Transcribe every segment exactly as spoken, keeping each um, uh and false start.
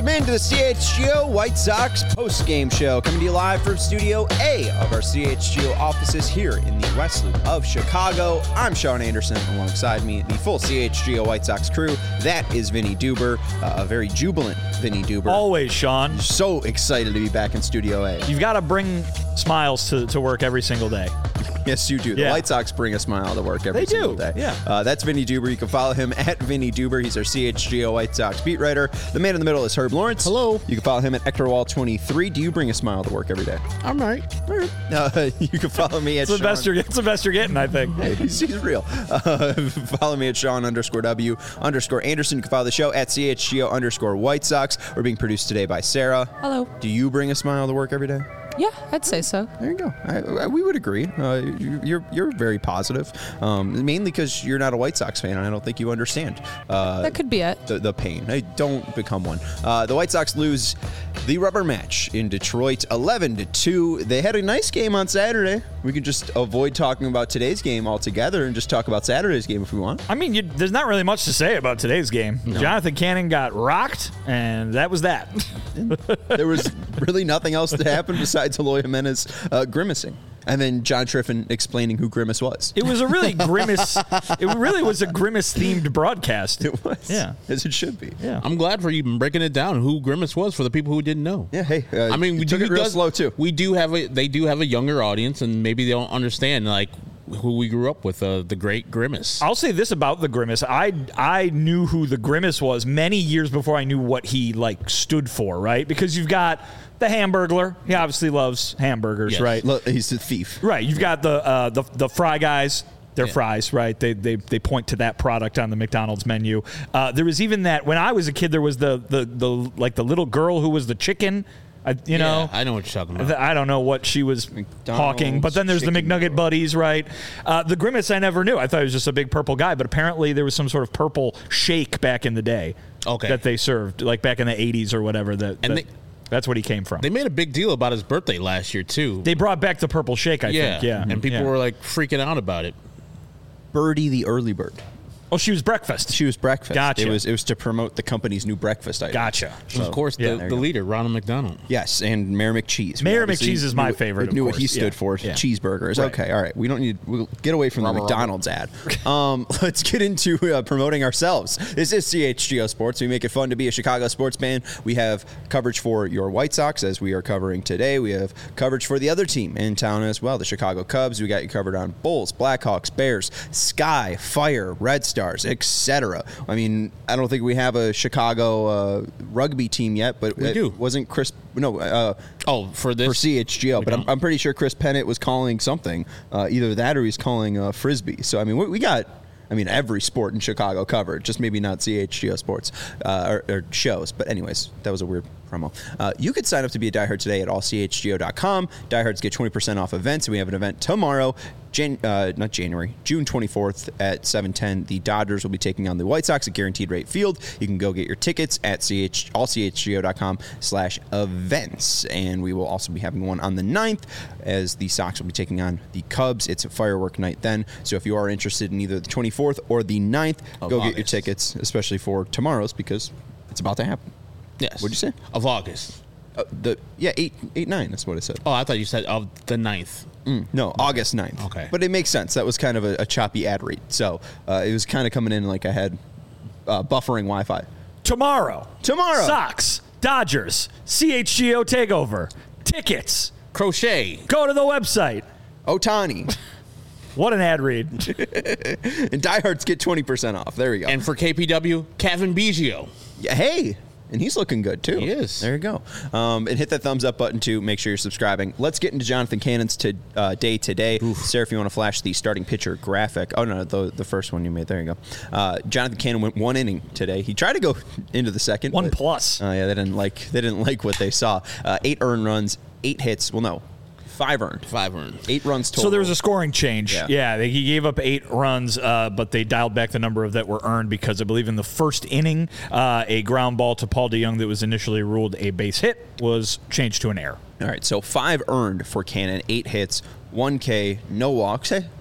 Welcome into the C H G O White Sox post-game show, coming to you live from Studio A of our C H G O offices here in the West Loop of Chicago. I'm Sean Anderson. Alongside me, the full C H G O White Sox crew. That is Vinny Duber, uh, a very jubilant Vinny Duber. Always, Sean. So excited to be back in Studio A. You've got to bring smiles to, to work every single day. Yes, you do. The yeah. White Sox bring a smile to work every they single do. day. Yeah. Uh, that's Vinny Duber. You can follow him at Vinny Duber. He's our C H G O White Sox beat writer. The man in the middle is Herb Lawrence. Hello. You can follow him at Ectorwall twenty-three. Do you bring a smile to work every day? I'm right. All right. Uh, you can follow me at It's the, Sean. best you're, it's the best you're getting, I think. Hey, he's, he's real. Uh, follow me at Sean underscore W underscore Anderson. You can follow the show at C H G O underscore White Sox. We're being produced today by Sarah. Hello. Do you bring a smile to work every day? Yeah, I'd say so. There you go. I, I, we would agree. Uh, you, you're you're very positive, um, mainly because you're not a White Sox fan, and I don't think you understand uh, That could be it. the, the pain. I don't become one. Uh, the White Sox lose the rubber match in Detroit, eleven to two. They had a nice game on Saturday. We can just avoid talking about today's game altogether and just talk about Saturday's game if we want. I mean, you, there's not really much to say about today's game. No. Jonathan Cannon got rocked, and that was that. There was really nothing else that happened besides Eloy Jimenez uh, grimacing. And then John Triffin explaining who Grimace was. It was a really grimace. It really was a grimace-themed broadcast. It was. Yeah. As it should be. Yeah. I'm glad for you breaking it down who Grimace was for the people who didn't know. Yeah, hey. Uh, I mean, we took do, it real does, slow, too. We do have a, they do have a younger audience, and maybe they don't understand, like, who we grew up with, uh, the great Grimace. I'll say this about the Grimace. I I knew who the Grimace was many years before I knew what he, like, stood for, right? Because you've got the Hamburglar. He obviously loves hamburgers, Yes. right? Look, he's a thief. Right. You've got the uh, the the Fry Guys. They're Yeah. fries, right? They, they they point to that product on the McDonald's menu. Uh, there was even that when I was a kid. There was the the the like the little girl who was the chicken. I, you Yeah, know, I know what you're talking about. th- I don't know what she was McDonald's hawking, but then there's the chicken McNugget girl. buddies, right? Uh, the Grimace I never knew. I thought he was just a big purple guy, but apparently there was some sort of purple shake back in the day. Okay. That they served, like back in the eighties or whatever. That, And that- they- that's what he came from. They made a big deal about his birthday last year, too. They brought back the purple shake, I yeah. think. Yeah, And people yeah. were, like, freaking out about it. Birdie the early bird. Oh, she was breakfast. She was breakfast. Gotcha. It was it was to promote the company's new breakfast item. Gotcha. And of course, yeah, the, there the you go. leader, Ronald McDonald. Yes, and Mayor McCheese. We Mayor obviously McCheese is my knew- favorite, We of knew what course. he stood Yeah. for. Yeah. Cheeseburgers. Right. Okay, all right. We don't need. We'll get away from the Rubber, rubber. McDonald's ad. Um, let's get into uh, promoting ourselves. This is C H G O Sports. We make it fun to be a Chicago sports fan. We have coverage for your White Sox, as we are covering today. We have coverage for the other team in town as well, the Chicago Cubs. We got you covered on Bulls, Blackhawks, Bears, Sky, Fire, Red Stars, et cetera. I mean, I don't think we have a Chicago uh, rugby team yet, but We it do. wasn't Chris. No, uh, Oh, for this? for C H G O, but I'm, don't. I'm pretty sure Chris Pennant was calling something, uh, either that or he's calling uh, Frisbee. So, I mean, we, we got, I mean, every sport in Chicago covered, just maybe not C H G O sports uh, or, or shows. But anyways, that was a weird promo. Uh, you could sign up to be a diehard today at all c h g o dot com. Diehards get twenty percent off events, and we have an event tomorrow, Jan- uh, not January, June twenty-fourth at seven ten. The Dodgers will be taking on the White Sox at Guaranteed Rate Field. You can go get your tickets at ch all c h g o dot com slash events. And we will also be having one on the ninth as the Sox will be taking on the Cubs. It's a firework night then. So if you are interested in either the twenty-fourth or the ninth, Of go get your August. tickets, especially for tomorrow's, because it's about to happen. Yes. What'd you say? Of August. Uh, the yeah, eight eight nine. That's what it said. Oh, I thought you said of the ninth. Mm, no, August ninth. Okay. But it makes sense. That was kind of a, a choppy ad read. So uh, it was kind of coming in like I had uh, buffering Wi-Fi. Tomorrow. Tomorrow. Sox, Dodgers, C H G O Takeover, tickets. Crochet. Go to the website. Otani. What an ad read. And diehards get twenty percent off. There we go. And for K P W, Kevin Biggio. Yeah, hey. And he's looking good, too. He is. There you go. Um, and hit that thumbs up button, too. Make sure you're subscribing. Let's get into Jonathan Cannon's to, uh, day today. Sarah, if you want to flash the starting pitcher graphic. Oh, no, the, the first one you made. There you go. Uh, Jonathan Cannon went one inning today. He tried to go into the second. One but, plus. Uh, yeah, they didn't like they didn't like what they saw. Uh, eight earned runs, eight hits. Well, no, five earned. Five earned. Eight runs total. So there was a scoring change. Yeah. Yeah, they, he gave up eight runs, uh, but they dialed back the number of that were earned because I believe in the first inning, uh, a ground ball to Paul DeJong that was initially ruled a base hit was changed to an error. All right, so five earned for Cannon, eight hits, one K, no walks. Hey,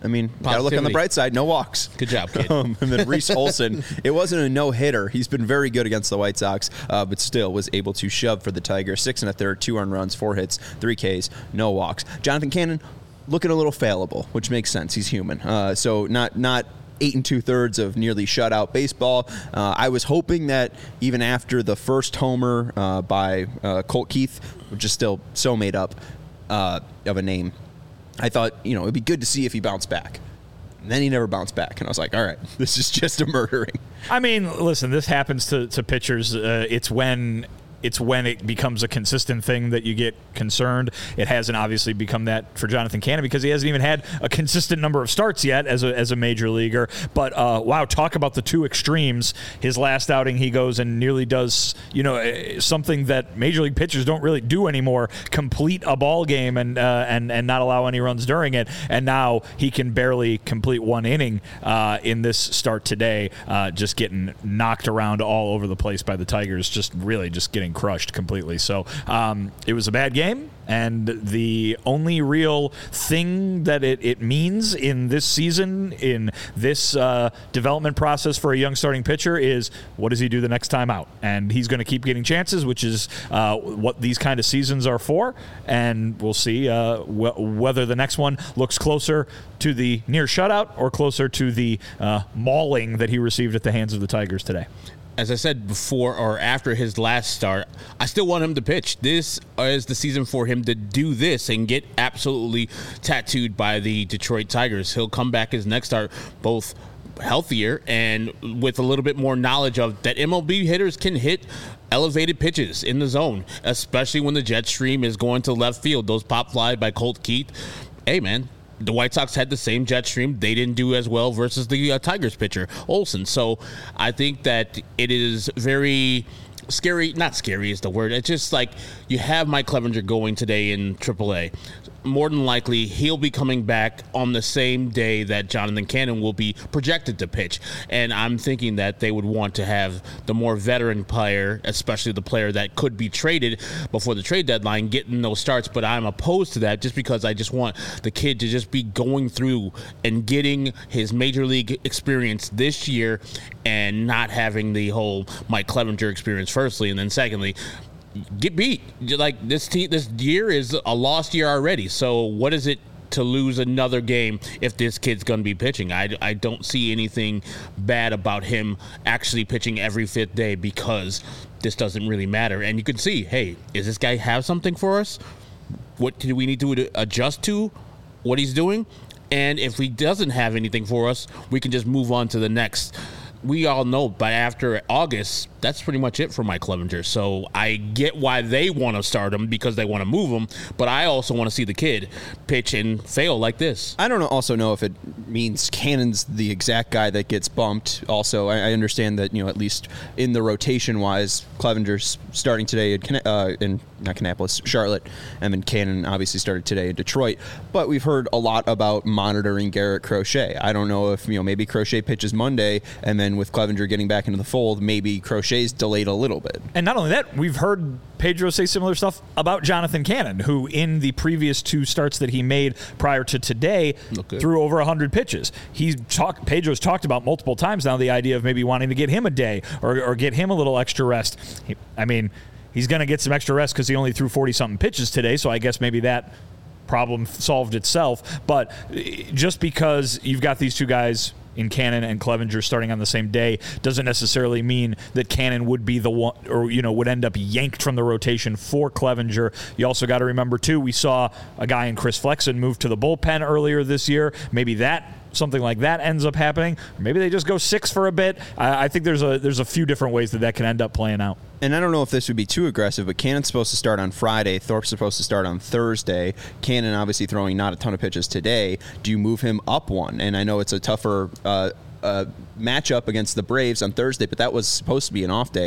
I mean, got to look on the bright side. No walks. Good job, kid. Um, and then Reese Olson, it wasn't a no-hitter. He's been very good against the White Sox, uh, but still was able to shove for the Tigers. Six and a third, two earned runs, four hits, three Ks, no walks. Jonathan Cannon, looking a little fallible, which makes sense. He's human. Uh, so not not eight and two-thirds of nearly shutout baseball. Uh, I was hoping that even after the first homer uh, by uh, Colt Keith, which is still so made up uh, of a name, I thought, you know, it'd be good to see if he bounced back. And then he never bounced back. And I was like, all right, this is just a murdering. I mean, listen, this happens to, to pitchers. Uh, it's when... It's when it becomes a consistent thing that you get concerned. It hasn't obviously become that for Jonathan Cannon because he hasn't even had a consistent number of starts yet as a as a major leaguer. But, uh, wow, talk about the two extremes. His last outing, he goes and nearly does, you know, something that major league pitchers don't really do anymore, complete a ball game and uh, and, and not allow any runs during it. And now he can barely complete one inning uh, in this start today, uh, just getting knocked around all over the place by the Tigers, just really just getting crushed completely. So um, it was a bad game, and the only real thing that it, it means in this season, in this uh, development process for a young starting pitcher is what does he do the next time out? And he's going to keep getting chances, which is uh, what these kind of seasons are for, and we'll see uh, wh- whether the next one looks closer to the near shutout or closer to the uh, mauling that he received at the hands of the Tigers today. As I said before or after his last start, I still want him to pitch. This is the season for him to do this and get absolutely tattooed by the Detroit Tigers. He'll come back his next start both healthier and with a little bit more knowledge of that M L B hitters can hit elevated pitches in the zone, especially when the jet stream is going to left field. Those pop fly by Colt Keith. Hey, man. The White Sox had the same jet stream. They didn't do as well versus the uh, Tigers pitcher, Olson. So I think that it is very scary. Not scary is the word. It's just like you have Mike Clevenger going today in triple A. More than likely, he'll be coming back on the same day that Jonathan Cannon will be projected to pitch. And I'm thinking that they would want to have the more veteran player, especially the player that could be traded before the trade deadline, getting those starts. But I'm opposed to that just because I just want the kid to just be going through and getting his major league experience this year and not having the whole Mike Clevenger experience, firstly. And then secondly, get beat. Like this team, this year is a lost year already. So what is it to lose another game if this kid's going to be pitching? I, I don't see anything bad about him actually pitching every fifth day because this doesn't really matter. And you can see, hey, does this guy have something for us? What do we need to adjust to what he's doing? And if he doesn't have anything for us, we can just move on to the next. We all know, but after August, that's pretty much it for Mike Clevenger. So I get why they want to start him because they want to move him, but I also want to see the kid pitch and fail like this. I don't also know if it means Cannon's the exact guy that gets bumped. Also, I, I understand that, you know, at least in the rotation-wise, Clevenger's starting today in, uh, in not Kannapolis, Charlotte, and then Cannon obviously started today in Detroit. But we've heard a lot about monitoring Garrett Crochet. I don't know if, you know, maybe Crochet pitches Monday, and then with Clevenger getting back into the fold, maybe Crochet's delayed a little bit. And not only that, we've heard Pedro say similar stuff about Jonathan Cannon, who in the previous two starts that he made prior to today threw over one hundred pitches. He's talked, Pedro's talked about multiple times now the idea of maybe wanting to get him a day or, or get him a little extra rest. He, I mean, he's going to get some extra rest because he only threw forty-something pitches today, so I guess maybe that problem solved itself. But just because you've got these two guys in Cannon and Clevenger starting on the same day doesn't necessarily mean that Cannon would be the one, or, you know, would end up yanked from the rotation for Clevenger. You also got to remember, too, we saw a guy in Chris Flexen move to the bullpen earlier this year. Maybe that something like that ends up happening. Maybe they just go six for a bit. I, I think there's a there's a few different ways that that can end up playing out. And I don't know if this would be too aggressive, but Cannon's supposed to start on Friday. Thorpe's supposed to start on Thursday. Cannon obviously throwing not a ton of pitches today. Do you move him up one? And I know it's a tougher uh, uh, matchup against the Braves on Thursday, but that was supposed to be an off day.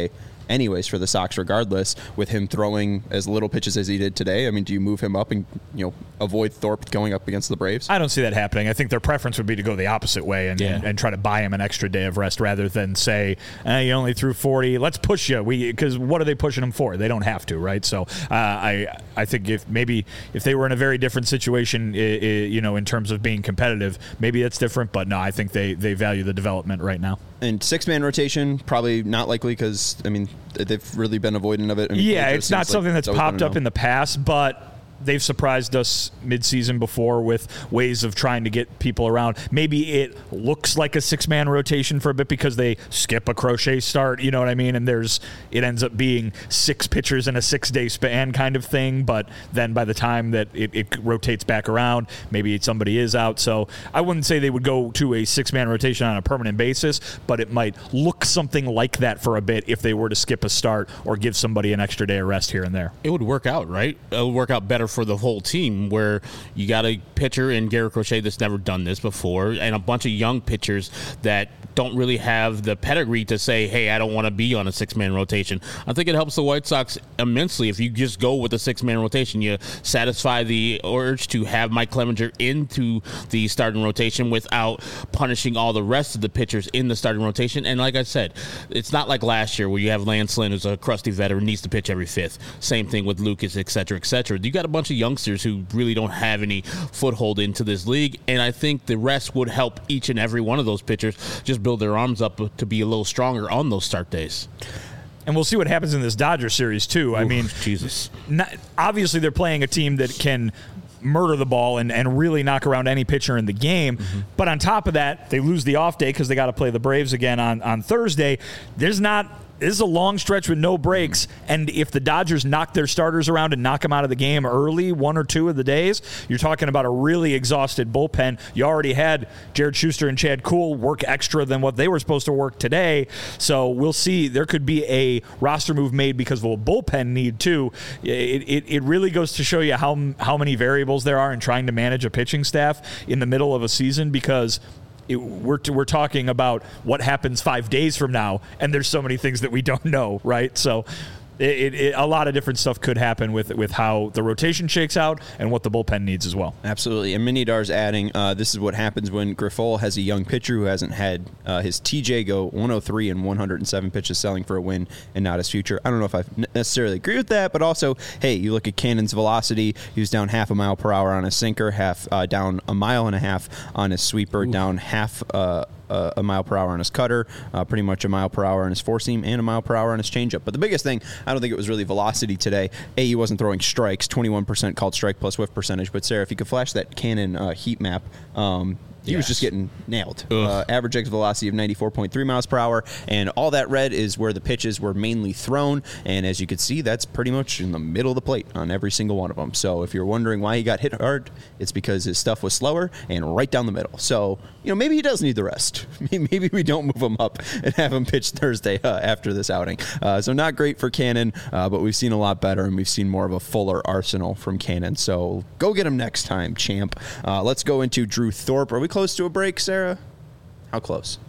anyways for the Sox regardless, with him throwing as little pitches as he did today. I mean, do you move him up and, you know, avoid Thorpe going up against the Braves? I don't see that happening. I think their preference would be to go the opposite way and, Yeah. and, and try to buy him an extra day of rest rather than say, eh, you only threw forty, let's push you. We because what are they pushing him for? They don't have to, right? So uh, I I think if maybe if they were in a very different situation, I, I, you know, in terms of being competitive, maybe that's different. But no, I think they, they value the development right now. And six-man rotation, probably not likely because, I mean, they've really been avoidant of it. I mean, Yeah, it it's just not seems like something that's always been popped a up no. in the past, but they've surprised us mid-season before with ways of trying to get people around. Maybe it looks like a six-man rotation for a bit because they skip a Crochet start, you know what I mean? And there's it ends up being six pitchers in a six-day span kind of thing, but then by the time that it, it rotates back around, maybe somebody is out. So I wouldn't say they would go to a six-man rotation on a permanent basis, but it might look something like that for a bit if they were to skip a start or give somebody an extra day of rest here and there. It would work out, right? It would work out better for the whole team where you got a pitcher in Garrett Crochet that's never done this before and a bunch of young pitchers that don't really have the pedigree to say, hey, I don't want to be on a six-man rotation. I think it helps the White Sox immensely if you just go with a six-man rotation. You satisfy the urge to have Mike Clevenger into the starting rotation without punishing all the rest of the pitchers in the starting rotation. And like I said, it's not like last year where you have Lance Lynn, who's a crusty veteran, needs to pitch every fifth. Same thing with Lucas, et cetera, et cetera. You got a bunch of youngsters who really don't have any foothold into this league, and I think the rest would help each and every one of those pitchers just build their arms up to be a little stronger on those start days. And we'll see what happens in this Dodger series, too. I Oof, mean, Jesus. Not, obviously they're playing a team that can murder the ball and, and really knock around any pitcher in the game. Mm-hmm. But on top of that, they lose the off day because they got to play the Braves again on, on Thursday. There's not... This is a long stretch with no breaks, and if the Dodgers knock their starters around and knock them out of the game early, one or two of the days, you're talking about a really exhausted bullpen. You already had Jared Schuster and Chad Kuhl work extra than what they were supposed to work today, so we'll see. There could be a roster move made because of a bullpen need, too. It, it, it really goes to show you how, how many variables there are in trying to manage a pitching staff in the middle of a season because It, we're we're talking about what happens five days from now, and there's so many things that we don't know, right? So it, it, a lot of different stuff could happen with with how the rotation shakes out and what the bullpen needs as well. Absolutely. And Minidar's adding, uh, this is what happens when Grifol has a young pitcher who hasn't had uh, his T J go one oh three and one hundred seven pitches selling for a win and not his future. I don't know if I necessarily agree with that, but also, hey, you look at Cannon's velocity. He was down half a mile per hour on his sinker, half uh, down a mile and a half on his sweeper, Ooh. down half uh, Uh, a mile per hour on his cutter, uh, pretty much a mile per hour on his four seam, and a mile per hour on his changeup. But the biggest thing, I don't think it was really velocity today. A, he wasn't throwing strikes, twenty-one percent called strike plus whiff percentage. But Sarah, if you could flash that Cannon uh, heat map, um, he yes. was just getting nailed. Uh, average exit velocity of ninety-four point three miles per hour, and all that red is where the pitches were mainly thrown. And as you can see, that's pretty much in the middle of the plate on every single one of them. So if you're wondering why he got hit hard, it's because his stuff was slower and right down the middle. So, you know, maybe he does need the rest. Maybe we don't move him up and have him pitch Thursday uh, after this outing. Uh, so not great for Cannon, uh, but we've seen a lot better, and we've seen more of a fuller arsenal from Cannon. So go get him next time, champ. Uh, let's go into Drew Thorpe. Are we close to a break, Sarah? How close?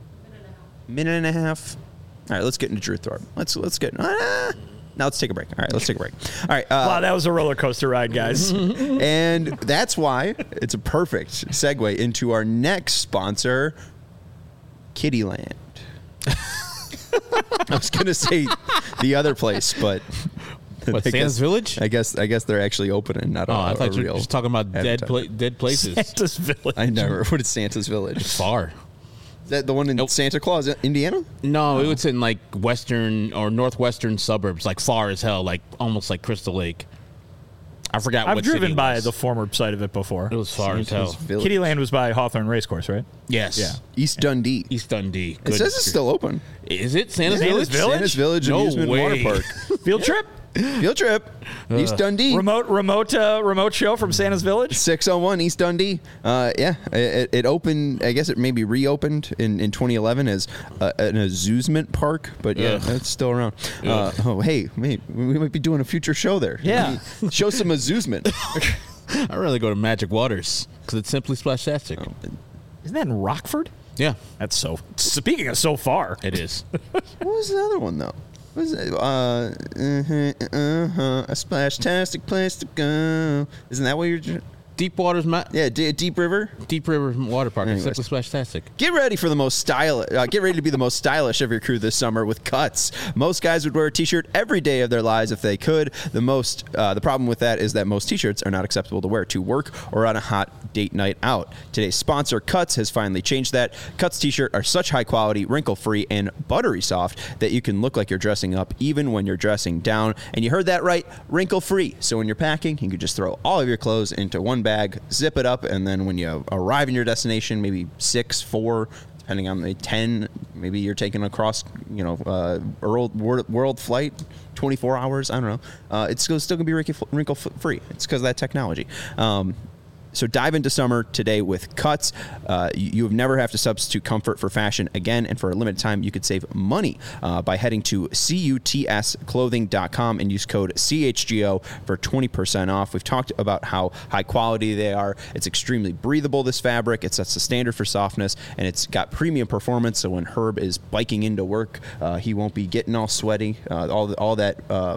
Minute and a half. Minute and a half. All right, let's get into Drew Thorpe. Let's let's get. Ah, now let's take a break. All right, let's take a break. All right. Uh, wow, that was a roller coaster ride, guys. And that's why it's a perfect segue into our next sponsor, Kittyland. I was going to say the other place, but what, I Santa's guess, Village? I guess I guess they're actually opening. Not oh, a, I thought a you real were just talking about dead pla- dead places. Santa's Village. I never. What is Santa's Village? It's far. Is that the one in nope. Santa Claus, Indiana? No, oh. It's in like western or northwestern suburbs, like far as hell, like almost like Crystal Lake. I forgot I've what driven city it by was. the former site of it before. It was far Santa's as hell. Village. Kittyland was by Hawthorne Racecourse, right? Yes. Yeah. East Dundee. East Dundee. It says it's still open. Is it Santa's, Santa's Village? Village? Santa's Village No Amusement way. Water Park. Field trip? Field trip. East Dundee. Remote remote uh, remote show from Santa's Village? six oh one East Dundee. Uh, yeah, it, it opened, I guess it maybe reopened in, in twenty eleven as uh, an amusement park, but yeah, Ugh. it's still around. Uh, oh, hey, wait, we might be doing a future show there. Yeah. Show some amusement. I'd rather go to Magic Waters because it's simply splastastic. Oh. Isn't that in Rockford? Yeah, That's so. Speaking of so far. it is. What was the other one, though? What is it? Uh, uh-huh, uh-huh, a splash-tastic place to go. Isn't that what you're... Deep Waters, Ma- Yeah, D- Deep River. Deep River Water Park. Anyways. Except with Splashtastic. Get ready for the most stylish. Uh, get ready to be the most stylish of your crew this summer with Cuts. Most guys would wear a T-shirt every day of their lives if they could. The most, uh, the problem with that is that most T-shirts are not acceptable to wear to work or on a hot date night out. Today's sponsor, Cuts, has finally changed that. Cuts T-shirt are such high quality, wrinkle free, and buttery soft that you can look like you're dressing up even when you're dressing down. And you heard that right, wrinkle free. So when you're packing, you can just throw all of your clothes into one bag, zip it up, and then when you arrive in your destination, maybe six, four, depending on the ten, maybe you're taking across, you know, uh, world, world world flight, twenty-four hours. I don't know. Uh, it's still, still gonna be wrinkle, wrinkle free. It's because of that technology. Um, So dive into summer today with Cuts. Uh, you, you have never have to substitute comfort for fashion again, and for a limited time, you could save money uh, by heading to cuts clothing dot com and use code C H G O for twenty percent off. We've talked about how high quality they are. It's extremely breathable, this fabric. It sets the standard for softness, and it's got premium performance, so when Herb is biking into work, uh, he won't be getting all sweaty. Uh, all, the, all that, uh,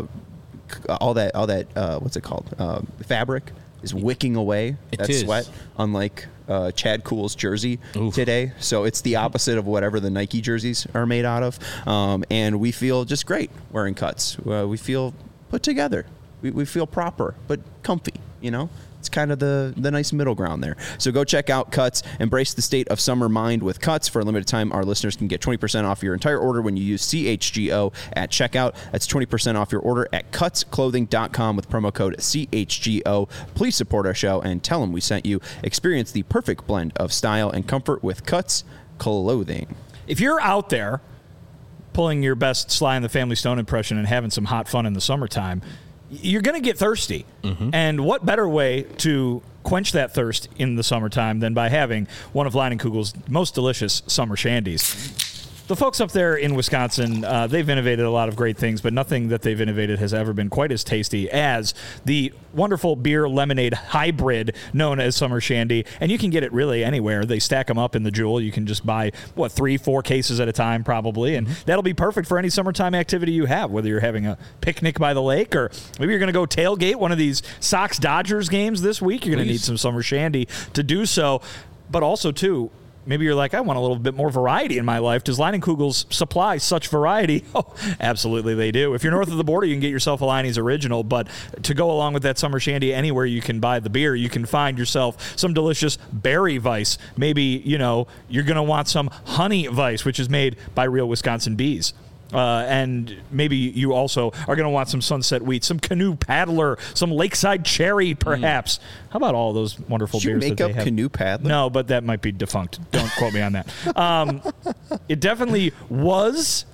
all that, all that, uh, what's it called? Uh, fabric is wicking away It that is. sweat, unlike uh, Chad Kuhl's jersey Oof. today. So it's the opposite of whatever the Nike jerseys are made out of. Um, and we feel just great wearing Cuts. Uh, we feel put together. We, we feel proper, but comfy, you know? It's kind of the, the nice middle ground there. So go check out Cuts. Embrace the state of summer mind with Cuts. For a limited time, our listeners can get twenty percent off your entire order when you use C H G O at checkout. That's twenty percent off your order at cuts clothing dot com with promo code C H G O. Please support our show and tell them we sent you. Experience the perfect blend of style and comfort with Cuts Clothing. If you're out there pulling your best Sly and the Family Stone impression and having some hot fun in the summertime, you're going to get thirsty. Mm-hmm. And what better way to quench that thirst in the summertime than by having one of Leinenkugel's most delicious summer shandies. The folks up there in Wisconsin, uh, they've innovated a lot of great things, but nothing that they've innovated has ever been quite as tasty as the wonderful beer lemonade hybrid known as Summer Shandy. And you can get it really anywhere. They stack them up in the Jewel. You can just buy, what, three, four cases at a time probably. And mm-hmm. that'll be perfect for any summertime activity you have, whether you're having a picnic by the lake or maybe you're going to go tailgate one of these Sox-Dodgers games this week. You're going to need some Summer Shandy to do so. But also, too, maybe you're like, I want a little bit more variety in my life. Does Leinenkugel's supply such variety? Oh, absolutely they do. If you're north of the border, you can get yourself a Leinie's Original, but to go along with that Summer Shandy, anywhere you can buy the beer, you can find yourself some delicious berry Weiss. Maybe, you know, you're going to want some honey Weiss, which is made by real Wisconsin bees. Uh, and maybe you also are going to want some Sunset Wheat, some Canoe Paddler, some Lakeside Cherry, perhaps. Mm. How about all those wonderful Did you beers make that up they have? Canoe Paddler? No, but that might be defunct. Don't quote me on that. Um, it definitely was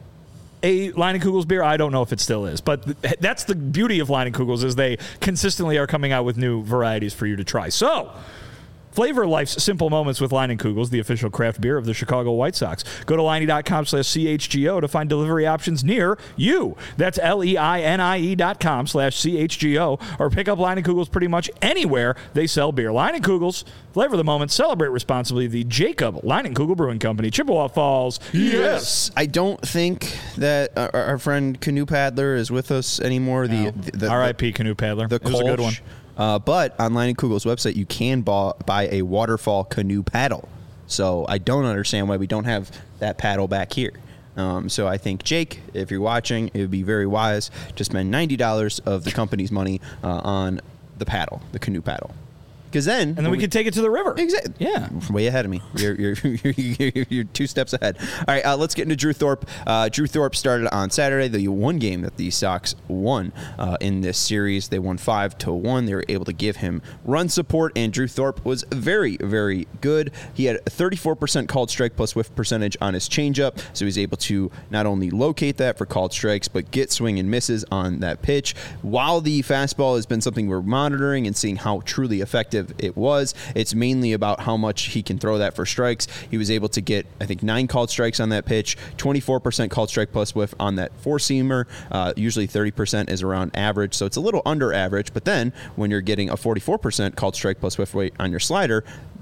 a Leinenkugel's beer. I don't know if it still is, but th- that's the beauty of Leinenkugel's is they consistently are coming out with new varieties for you to try. So, flavor life's simple moments with Leinenkugel's, the official craft beer of the Chicago White Sox. Go to Leinie dot com slash C H G O to find delivery options near you. That's L E I N I E dot com slash C H G O, or pick up Leinenkugel's pretty much anywhere they sell beer. Leinenkugel's, flavor the moment, celebrate responsibly. The Jacob Leinenkugel Brewing Company, Chippewa Falls. Yes. I don't think that our, our friend Canoe Paddler is with us anymore. No. The, the, the R I P Canoe Paddler. The It was a good one. Uh, but on Leinenkugel's website, you can buy, buy a waterfall canoe paddle. So I don't understand why we don't have that paddle back here. Um, so I think, Jake, if you're watching, it would be very wise to spend ninety dollars of the company's money uh, on the paddle, the canoe paddle. Because then... And then we, we could take it to the river. Exactly. Yeah. Way ahead of me. You're you're, you're, you're, you're two steps ahead. All right, uh, let's get into Drew Thorpe. Uh, Drew Thorpe started on Saturday, the one game that the Sox won uh, in this series. They won five to one. They were able to give him run support, and Drew Thorpe was very, very good. He had a thirty-four percent called strike plus whiff percentage on his changeup, so he's able to not only locate that for called strikes, but get swing and misses on that pitch. While the fastball has been something we're monitoring and seeing how truly effective it was, it's mainly about how much he can throw that for strikes. He was able to get, I think, nine called strikes on that pitch, twenty-four percent called strike plus whiff on that four-seamer. Uh, usually thirty percent is around average, so it's a little under average, but then when you're getting a forty-four percent called strike plus whiff rate on your slider,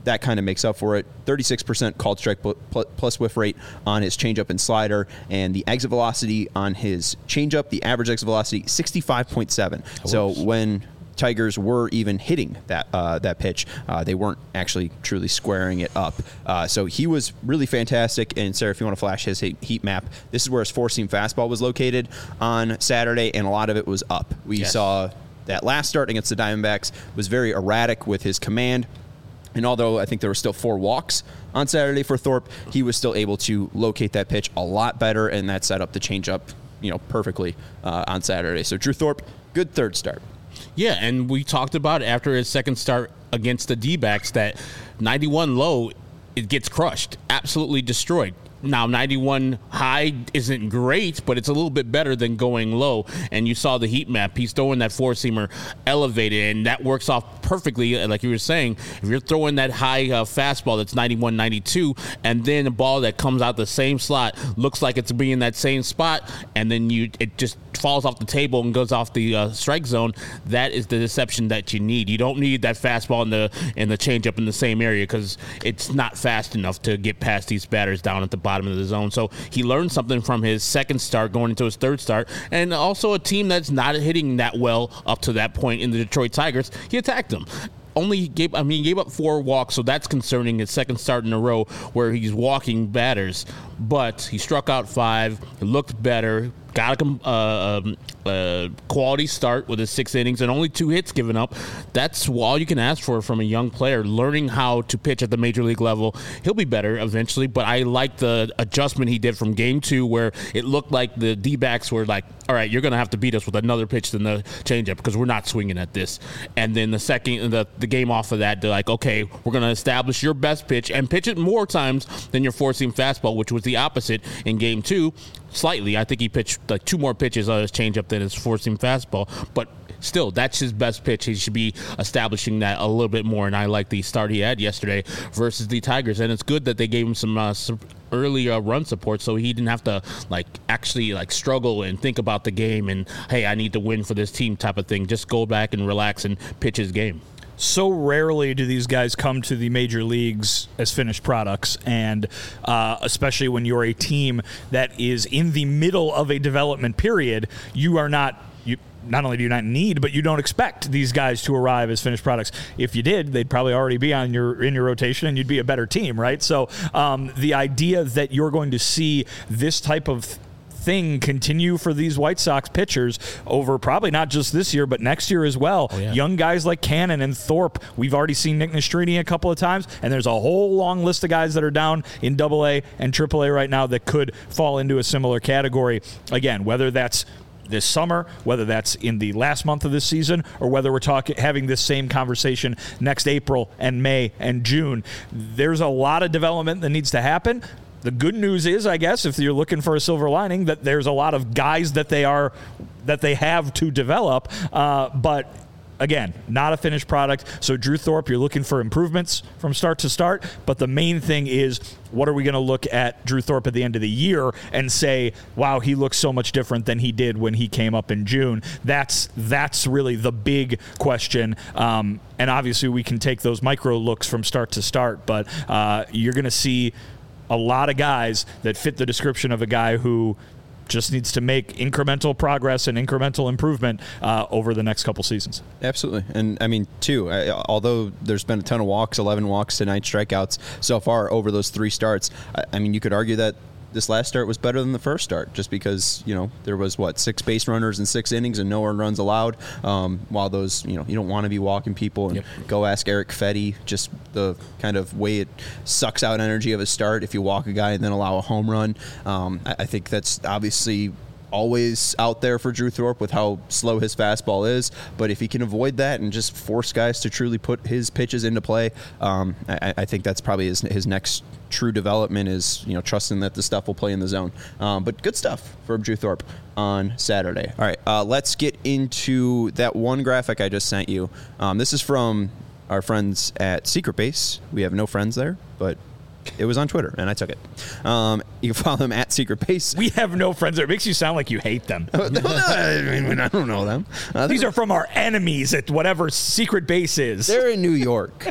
that kind of makes up for it. thirty-six percent called strike plus whiff rate on his changeup and slider, and the exit velocity on his changeup, the average exit velocity, sixty-five point seven. So when Tigers were even hitting that uh, that pitch, uh, they weren't actually truly squaring it up. Uh, so he was really fantastic. And Sarah, if you want to flash his heat map, this is where his four-seam fastball was located on Saturday, and a lot of it was up. We yes. saw that last start against the Diamondbacks was very erratic with his command. And although I think there were still four walks on Saturday for Thorpe, he was still able to locate that pitch a lot better, and that set up the changeup, you know, perfectly uh, on Saturday. So Drew Thorpe, good third start. Yeah, and we talked about after his second start against the D-backs that ninety-one low, it gets crushed, absolutely destroyed. Now, ninety-one high isn't great, but it's a little bit better than going low. And you saw the heat map. He's throwing that four-seamer elevated, and that works off perfectly. Like you were saying, if you're throwing that high uh, fastball that's ninety-one, ninety-two, and then a ball that comes out the same slot, looks like it's being in that same spot, and then you it just falls off the table and goes off the uh, strike zone, that is the deception that you need. You don't need that fastball in the, in the changeup in the same area because it's not fast enough to get past these batters down at the bottom of the zone. So he learned something from his second start going into his third start, and also a team that's not hitting that well up to that point in the Detroit Tigers. He attacked them. Only gave, I mean, he gave up four walks, so that's concerning. His second start in a row where he's walking batters, but he struck out five, looked better, got a uh, uh, quality start with his six innings and only two hits given up. That's all you can ask for from a young player, learning how to pitch at the major league level. He'll be better eventually, but I like the adjustment he did from game two where it looked like the D-backs were like, all right, you're going to have to beat us with another pitch than the changeup because we're not swinging at this. And then the second, the, the game off of that, they're like, okay, we're going to establish your best pitch and pitch it more times than your four-seam fastball, which was the opposite in game two. Slightly, I think he pitched like two more pitches on his changeup than his four-seam fastball, but still, that's his best pitch. He should be establishing that a little bit more, and I like the start he had yesterday versus the Tigers, and it's good that they gave him some, uh, some early uh, run support so he didn't have to like actually like struggle and think about the game and, hey, I need to win for this team type of thing. Just go back and relax and pitch his game. So rarely do these guys come to the major leagues as finished products, and uh, especially when you're a team that is in the middle of a development period, you are not you. Not only do you not need, but you don't expect these guys to arrive as finished products. If you did, they'd probably already be on your in your rotation, and you'd be a better team, right? So um, the idea that you're going to see this type of thing continue for these White Sox pitchers over probably not just this year, but next year as well. Oh, yeah. Young guys like Cannon and Thorpe. We've already seen Nick Nastrini a couple of times, and there's a whole long list of guys that are down in double A and triple A right now that could fall into a similar category. Again, whether that's this summer, whether that's in the last month of this season, or whether we're talking having this same conversation next April and May and June, there's a lot of development that needs to happen. The good news is, I guess, if you're looking for a silver lining, that there's a lot of guys that they are that they have to develop. Uh, but again, not a finished product. So Drew Thorpe, you're looking for improvements from start to start. But the main thing is, what are we going to look at Drew Thorpe at the end of the year and say, wow, he looks so much different than he did when he came up in June? That's that's really the big question. Um, and obviously, we can take those micro looks from start to start. But uh, you're going to see a lot of guys that fit the description of a guy who just needs to make incremental progress and incremental improvement uh, over the next couple seasons. Absolutely. And, I mean, too, I, although there's been a ton of walks, eleven walks to nine strikeouts so far over those three starts, I, I mean, you could argue that this last start was better than the first start just because, you know, there was, what, six base runners in six innings and no earned runs allowed. Um, while those, you know, you don't want to be walking people. And yep. Go ask Eric Fetty, just the kind of way it sucks out energy of a start if you walk a guy and then allow a home run. Um, I, I think that's obviously always out there for Drew Thorpe with how slow his fastball is, but if he can avoid that and just force guys to truly put his pitches into play, um, I, I think that's probably his, his next true development is, you know, trusting that the stuff will play in the zone. Um, but good stuff from Drew Thorpe on Saturday. All right, uh, let's get into that one graphic I just sent you. Um, this is from our friends at Secret Base. We have no friends there, but it was on Twitter, and I took it. Um, you can follow them at Secret Base. We have no friends there. It makes you sound like you hate them. no, no, I mean, I don't know them. Uh, These are from our enemies at whatever Secret Base is. They're in New York.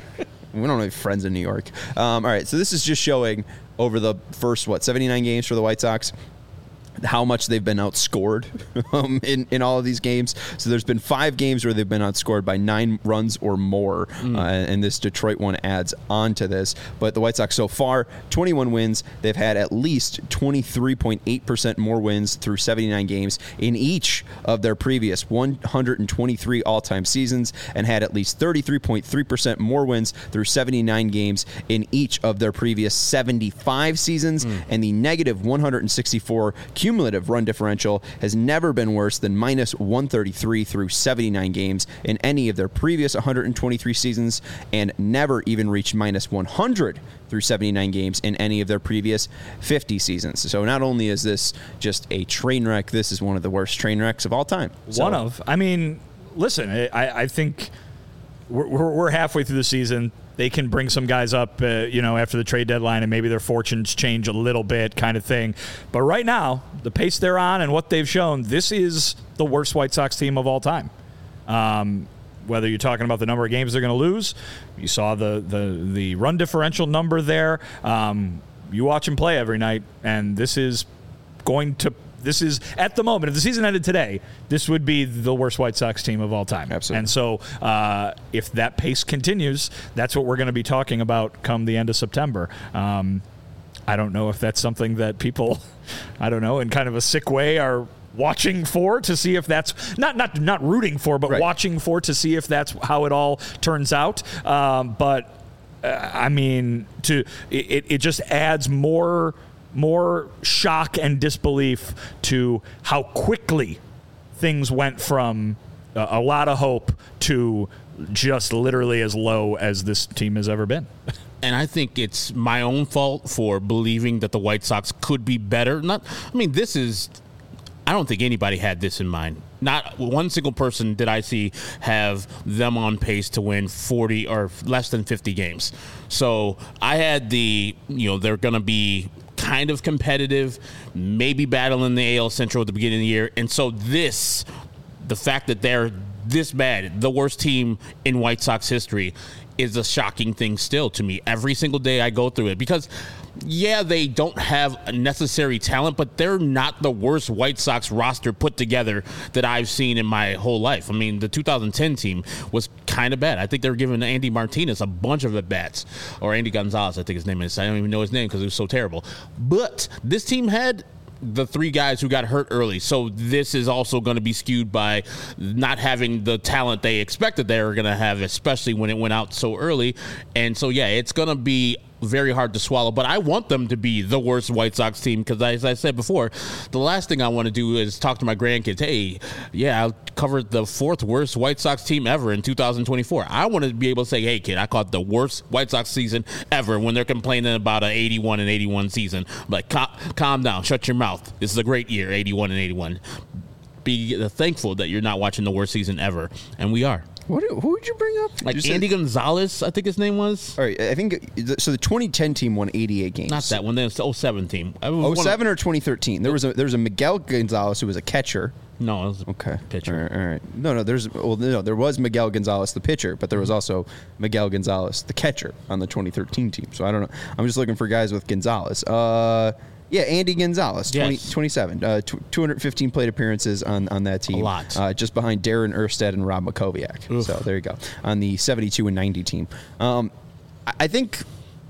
We don't have friends in New York. Um, all right, so this is just showing over the first, what, seventy-nine games for the White Sox, how much they've been outscored um, in, in all of these games. So there's been five games where they've been outscored by nine runs or more, mm. uh, and this Detroit one adds on to this. But the White Sox so far, twenty-one wins. They've had at least twenty-three point eight percent more wins through seventy-nine games in each of their previous one hundred twenty-three all-time seasons, and had at least thirty-three point three percent more wins through seventy-nine games in each of their previous seventy-five seasons, mm. and the negative one hundred sixty-four cumulative run differential has never been worse than minus one thirty-three through seventy-nine games in any of their previous one hundred twenty-three seasons, and never even reached minus one hundred through seventy-nine games in any of their previous fifty seasons. So not only is this just a train wreck, this is one of the worst train wrecks of all time. So, one of. I mean, listen, I, I think we're, we're halfway through the season. They can bring some guys up, uh, you know, after the trade deadline, and maybe their fortunes change a little bit, kind of thing. But right now, the pace they're on and what they've shown, this is the worst White Sox team of all time. Um, whether you're talking about the number of games they're going to lose, you saw the the the run differential number there. Um, you watch them play every night, and this is going to. This is, at the moment, if the season ended today, this would be the worst White Sox team of all time. Absolutely. And so uh, if that pace continues, that's what we're going to be talking about come the end of September. Um, I don't know if that's something that people, I don't know, in kind of a sick way are watching for to see if that's, not not not rooting for, but right. watching for to see if that's how it all turns out. Um, but, uh, I mean, to it, it just adds more... more shock and disbelief to how quickly things went from uh, a lot of hope to just literally as low as this team has ever been. And I think it's my own fault for believing that the White Sox could be better. Not, I mean, this is, I don't think anybody had this in mind. Not one single person did I see have them on pace to win forty or less than fifty games. So I had the, you know, they're going to be kind of competitive, maybe battling the A L Central at the beginning of the year. And so this, the fact that they're this bad, the worst team in White Sox history, is a shocking thing still to me. Every single day I go through it because, yeah, they don't have necessary talent, but they're not the worst White Sox roster put together that I've seen in my whole life. I mean, the two thousand ten team was kind of bad. I think they were giving Andy Martinez a bunch of at-bats, or Andy Gonzalez, I think his name is. I don't even know his name because it was so terrible. But this team had the three guys who got hurt early. So this is also going to be skewed by not having the talent they expected they were going to have, especially when it went out so early. And so, yeah, it's going to be very hard to swallow, but I want them to be the worst White Sox team because, as I said before, the last thing I want to do is talk to my grandkids, hey, yeah, I covered the fourth worst White Sox team ever in two thousand twenty-four. I want to be able to say, hey, kid, I caught the worst White Sox season ever when they're complaining about an eighty-one and eighty-one season. I'm like, Cal- calm down, shut your mouth. This is a great year, eighty-one and eighty-one. Be thankful that you're not watching the worst season ever, and we are. What? Who would you bring up? Like you Andy said, Gonzalez, I think his name was. All right, I think so. The twenty ten team won eighty-eight games. Not that one. Then it's the oh seven team. oh seven or twenty thirteen. There was a there was a Miguel Gonzalez who was a catcher. No, it was a okay. pitcher. All right, all right. No, no. There's well, no. There was Miguel Gonzalez, the pitcher, but there was also Miguel Gonzalez, the catcher, on the twenty thirteen team. So I don't know. I'm just looking for guys with Gonzalez. Uh. Yeah, Andy Gonzalez, twenty, yes. twenty-seven, uh, t- two hundred fifteen plate appearances on, on that team. A lot. Uh, just behind Darren Erstad and Rob Makoviak. Oof. So there you go. On the seventy-two and ninety team. Um, I, I think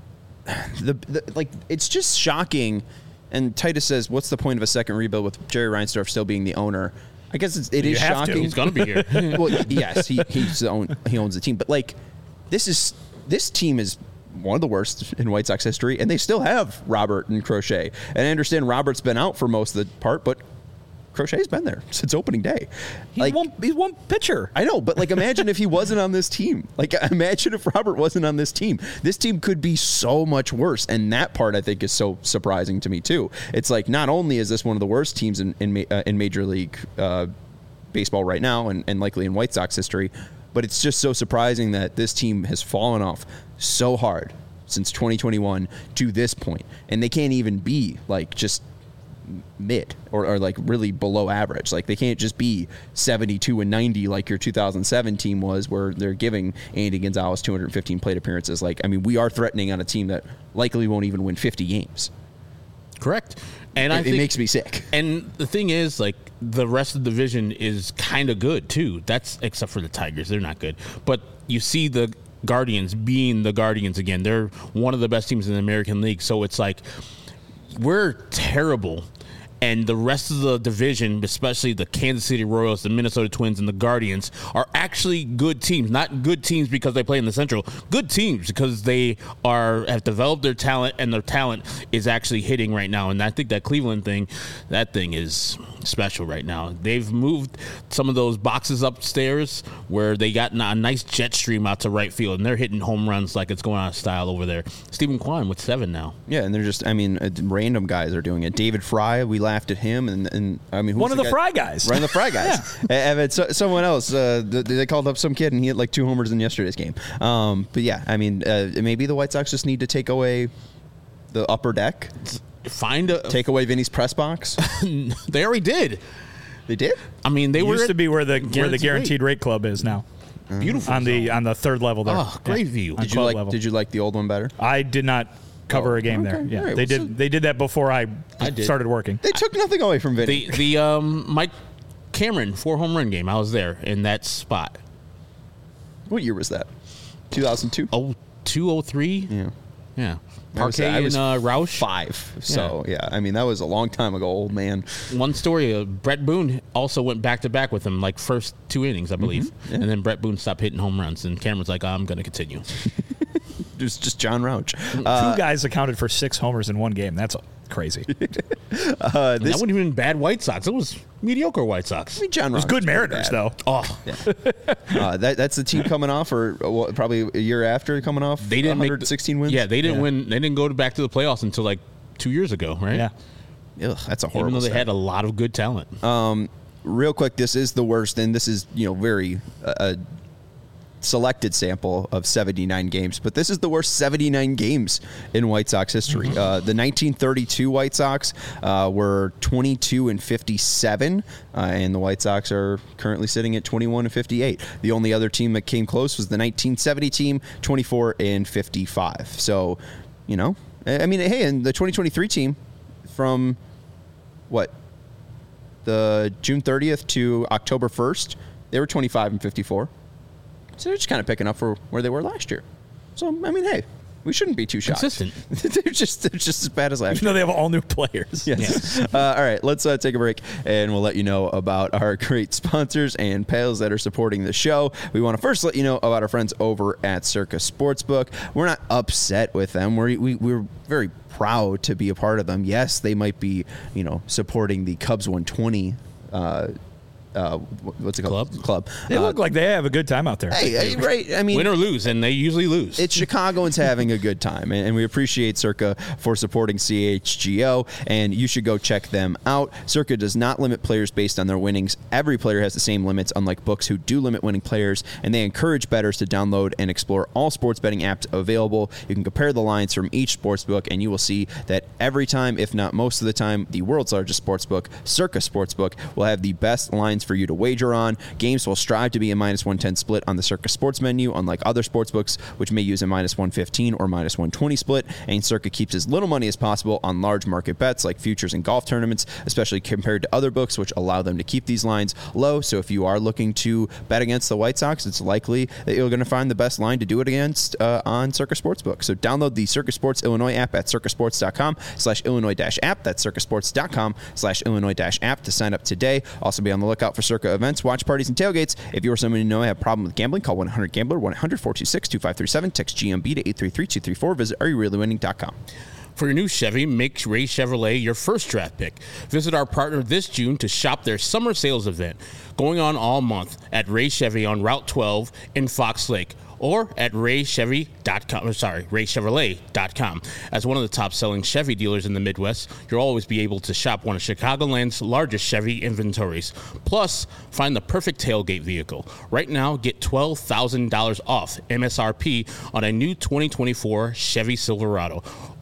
the, the like it's just shocking. And Titus says, what's the point of a second rebuild with Jerry Reinsdorf still being the owner? I guess it's, it you is have shocking. to. He's going to be here. Well, yes, he he's the own, he owns the team. But like, this is this team is one of the worst in White Sox history, and they still have Robert and Crochet. And I understand Robert's been out for most of the part, but Crochet's been there since opening day. He's, like, one, he's one pitcher. I know, but like, imagine if he wasn't on this team. Like, imagine if Robert wasn't on this team. This team could be so much worse, and that part I think is so surprising to me too. It's like not only is this one of the worst teams in in, uh, in Major League uh, Baseball right now, and, and likely in White Sox history, but it's just so surprising that this team has fallen off so hard since twenty twenty-one to this point, and they can't even be like just mid or, or like really below average. Like they can't just be seventy-two and ninety like your two thousand seven team was, where they're giving Andy Gonzalez two hundred fifteen plate appearances. Like, I mean, we are threatening on a team that likely won't even win fifty games. Correct. And it, I think, it makes me sick. And the thing is, like, the rest of the division is kind of good too. That's except for the Tigers, they're not good. But you see the Guardians being the Guardians again. They're one of the best teams in the American League. So it's like we're terrible. And the rest of the division, especially the Kansas City Royals, the Minnesota Twins, and the Guardians, are actually good teams. Not good teams because they play in the Central. Good teams because they are have developed their talent, and their talent is actually hitting right now. And I think that Cleveland thing, that thing is special right now. They've moved some of those boxes upstairs where they got a nice jet stream out to right field, and they're hitting home runs like it's going out of style over there. Stephen Kwan with seven now. Yeah, and they're just, I mean, uh, random guys are doing it. David Fry, we laughed at him, and, and I mean, who's one of the, guy? Fry guys. One of the Fry guys. yeah. And so, someone else, uh, they called up some kid, and he had like two homers in yesterday's game. Um, but yeah, I mean, uh, maybe the White Sox just need to take away the upper deck. Find a take away Vinny's press box. They already did. They did. I mean, they it were used to be where the guaranteed where the guaranteed rate. rate club is now. Beautiful on the on the third level there. Oh, great yeah. view. On Did you like? level. Did you like the old one better? I did not cover Oh, a game okay. there. Yeah, All right, they well, did. so- They did that before I, I did. started working. They took nothing away from Vinny. The the um Mike Cameron four home run game. I was there in that spot. What year was that? two thousand two. Oh, two oh three. Yeah. Yeah. I was, Parquet I was and uh, Roush. five. So yeah. I mean that was a long time ago, old man. One story, uh, Brett Boone also went back to back with him, like first two innings, I believe. Mm-hmm. Yeah. And then Brett Boone stopped hitting home runs, and Cameron's like, I'm going to continue. It was just John Rouch. Uh, Two guys accounted for six homers in one game. That's crazy. It uh, And this, that wasn't even bad White Sox. It was mediocre White Sox. I mean, John was Rouch good pretty Mariners bad. though. Oh, Uh, that, that's the team coming off, or uh, what, probably a year after coming off. they didn't one make the- sixteen wins. Yeah, they didn't Yeah. win. They didn't go to back to the playoffs until like two years ago, right? Yeah. Ugh, that's a Even horrible. though they start. had a lot of good talent. Real quick, this is the worst, and this is you know very uh, a selected sample of seventy-nine games, but this is the worst seventy-nine games in White Sox history. Uh, the nineteen thirty-two White Sox uh, were twenty-two and fifty-seven, uh, and the White Sox are currently sitting at twenty-one and fifty-eight. The only other team that came close was the nineteen seventy team, twenty-four and fifty-five. So, you know, I mean, hey, and the twenty twenty-three team from what? The June thirtieth to October first, they were twenty-five and fifty-four. So they're just kind of picking up for where they were last year. So, I mean, hey, we shouldn't be too shocked. Consistent. they're just they're just as bad as last Even year. though they have all new players. Yes. Uh, all right, let's uh, take a break, and we'll let you know about our great sponsors and pals that are supporting the show. We want to first let you know about our friends over at Circa Sportsbook. We're not upset with them. We're, we, we're very proud to be a part of them. Yes, they might be, you know, supporting the Cubs one twenty uh, uh, what's it called? Club? Club. They Uh, look like they have a good time out there. Hey, hey, right? I mean, Win or lose, and they usually lose. it's Chicagoans having a good time, and, and we appreciate Circa for supporting C H G O, and you should go check them out. Circa does not limit players based on their winnings. Every player has the same limits, unlike books who do limit winning players, and they encourage bettors to download and explore all sports betting apps available. You can compare the lines from each sportsbook, and you will see that every time, if not most of the time, the world's largest sportsbook, Circa Sportsbook, will have the best lines for you to wager on. Games will strive to be a minus one ten split on the Circa Sports menu, unlike other sportsbooks, which may use a minus one fifteen or minus one twenty split, and Circa keeps as little money as possible on large market bets like futures and golf tournaments, especially compared to other books, which allow them to keep these lines low. So if you are looking to bet against the White Sox, it's likely that you're going to find the best line to do it against uh, on Circa Sportsbook. So download the Circa Sports Illinois app at circasports.com slash Illinois dash app. That's circasports.com slash Illinois dash app to sign up today. Also be on the lookout for Circa events, watch parties, and tailgates. If you or someone you know have a problem with gambling, call one eight hundred gambler, one eight hundred four two six two five three seven, text G M B to eight three three two three four, visit are you really winning dot com. For your new Chevy, make Ray Chevrolet your first draft pick. Visit our partner this June to shop their summer sales event, going on all month at Ray Chevy on Route twelve in Fox Lake, or at ray chevy dot com, sorry, ray chevrolet dot com. As one of the top-selling Chevy dealers in the Midwest, you'll always be able to shop one of Chicagoland's largest Chevy inventories. Plus, find the perfect tailgate vehicle. Right now, get twelve thousand dollars off M S R P on a new twenty twenty-four Chevy Silverado,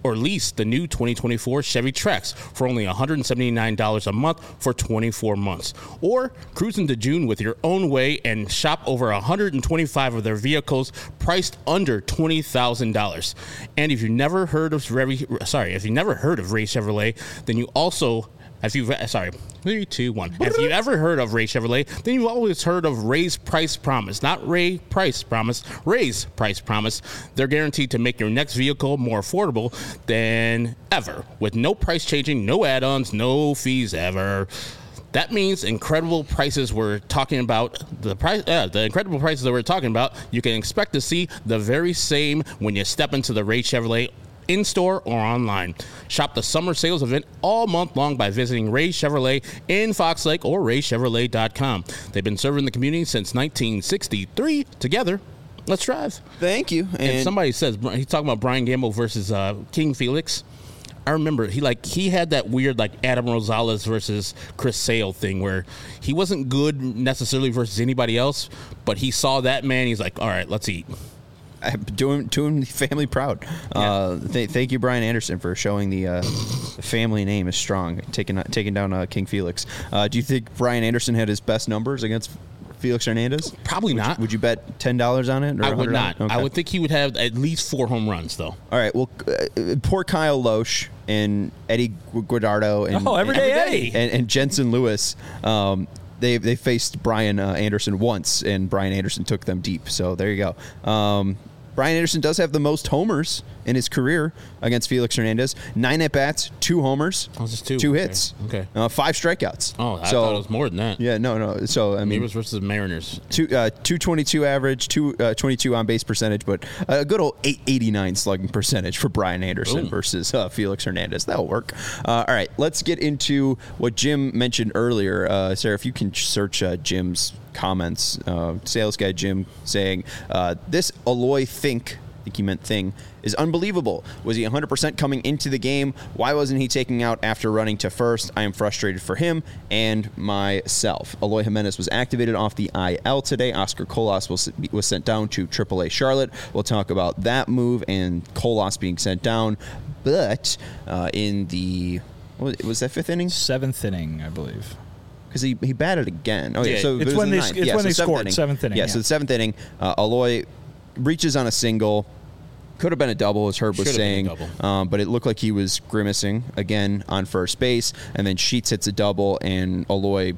or lease the new twenty twenty-four Chevy Trax for only one hundred seventy-nine dollars a month for twenty-four months. Or cruise into June with your own way and shop over one hundred twenty-five of their vehicles priced under twenty thousand dollars. And if you've never heard of sorry, if you've never heard of Ray Chevrolet, then you also If you've sorry, three, two, one. If you've ever heard of Ray Chevrolet, then you've always heard of Ray's Price Promise. Not Ray Price Promise, Ray's Price Promise. They're guaranteed to make your next vehicle more affordable than ever, with no price changing, no add-ons, no fees ever. That means incredible prices we're talking about. The price, uh, the incredible prices that we're talking about, you can expect to see the very same when you step into the Ray Chevrolet in-store or online. Shop the summer sales event all month long by visiting Ray Chevrolet in Fox Lake or ray chevrolet dot com. They've been serving the community since nineteen sixty-three. Together, let's drive. Thank you. And, And somebody says, he's talking about Brian Gamble versus uh, King Felix. I remember he like he had that weird like Adam Rosales versus Chris Sale thing where he wasn't good necessarily versus anybody else, but he saw that man. He's like, all right, let's eat. I'm doing doing the family proud. Yeah. Uh, th- thank you, Brian Anderson, for showing the, uh, the family name is strong, taking taking down uh, King Felix. Uh, do you think Brian Anderson had his best numbers against Felix Hernandez? Probably would not. You, would you bet ten dollars on it? Or I would not. Okay. I would think he would have at least four home runs, though. All right. Well, uh, poor Kyle Loesch and Eddie Guardado and Oh, everyday and, Eddie. and, and Jensen Lewis. Um, they they faced Brian uh, Anderson once, and Brian Anderson took them deep. So there you go. Um, Brian Anderson does have the most homers in his career against Felix Hernandez. Nine at-bats, two homers, Oh, just two. two Okay. hits, Okay. Uh, five strikeouts. Oh, I so, thought it was more than that. Yeah, no, no. So, I Maybe mean, it was versus the Mariners. two, uh, two twenty-two average, two uh, twenty-two on-base percentage, but a good old eight eighty-nine slugging percentage for Brian Anderson Boom. versus uh, Felix Hernandez. That'll work. Uh, all right, let's get into what Jim mentioned earlier. Uh, Sarah, if you can search uh, Jim's comments, uh, sales guy Jim saying, uh, this Eloy Think, I think he meant thing, is unbelievable. Was he one hundred percent coming into the game? Why wasn't he taking out after running to first? I am frustrated for him and myself. Eloy Jimenez was activated off the I L today. Oscar Colas was, was sent down to triple A Charlotte. We'll talk about that move and Colas being sent down. But uh, in the, what was that fifth inning? Seventh inning, I believe. Because he, he batted again. Oh, yeah. Yeah, so it's it was when the they- ninth. it's yeah, when so they seventh scored, inning. seventh inning, Yeah, yeah. so the seventh inning, uh, Eloy reaches on a single. Could have been a double, as Herb was Should have been saying, a double. um, but it looked like he was grimacing again on first base, and then Sheets hits a double, and Eloy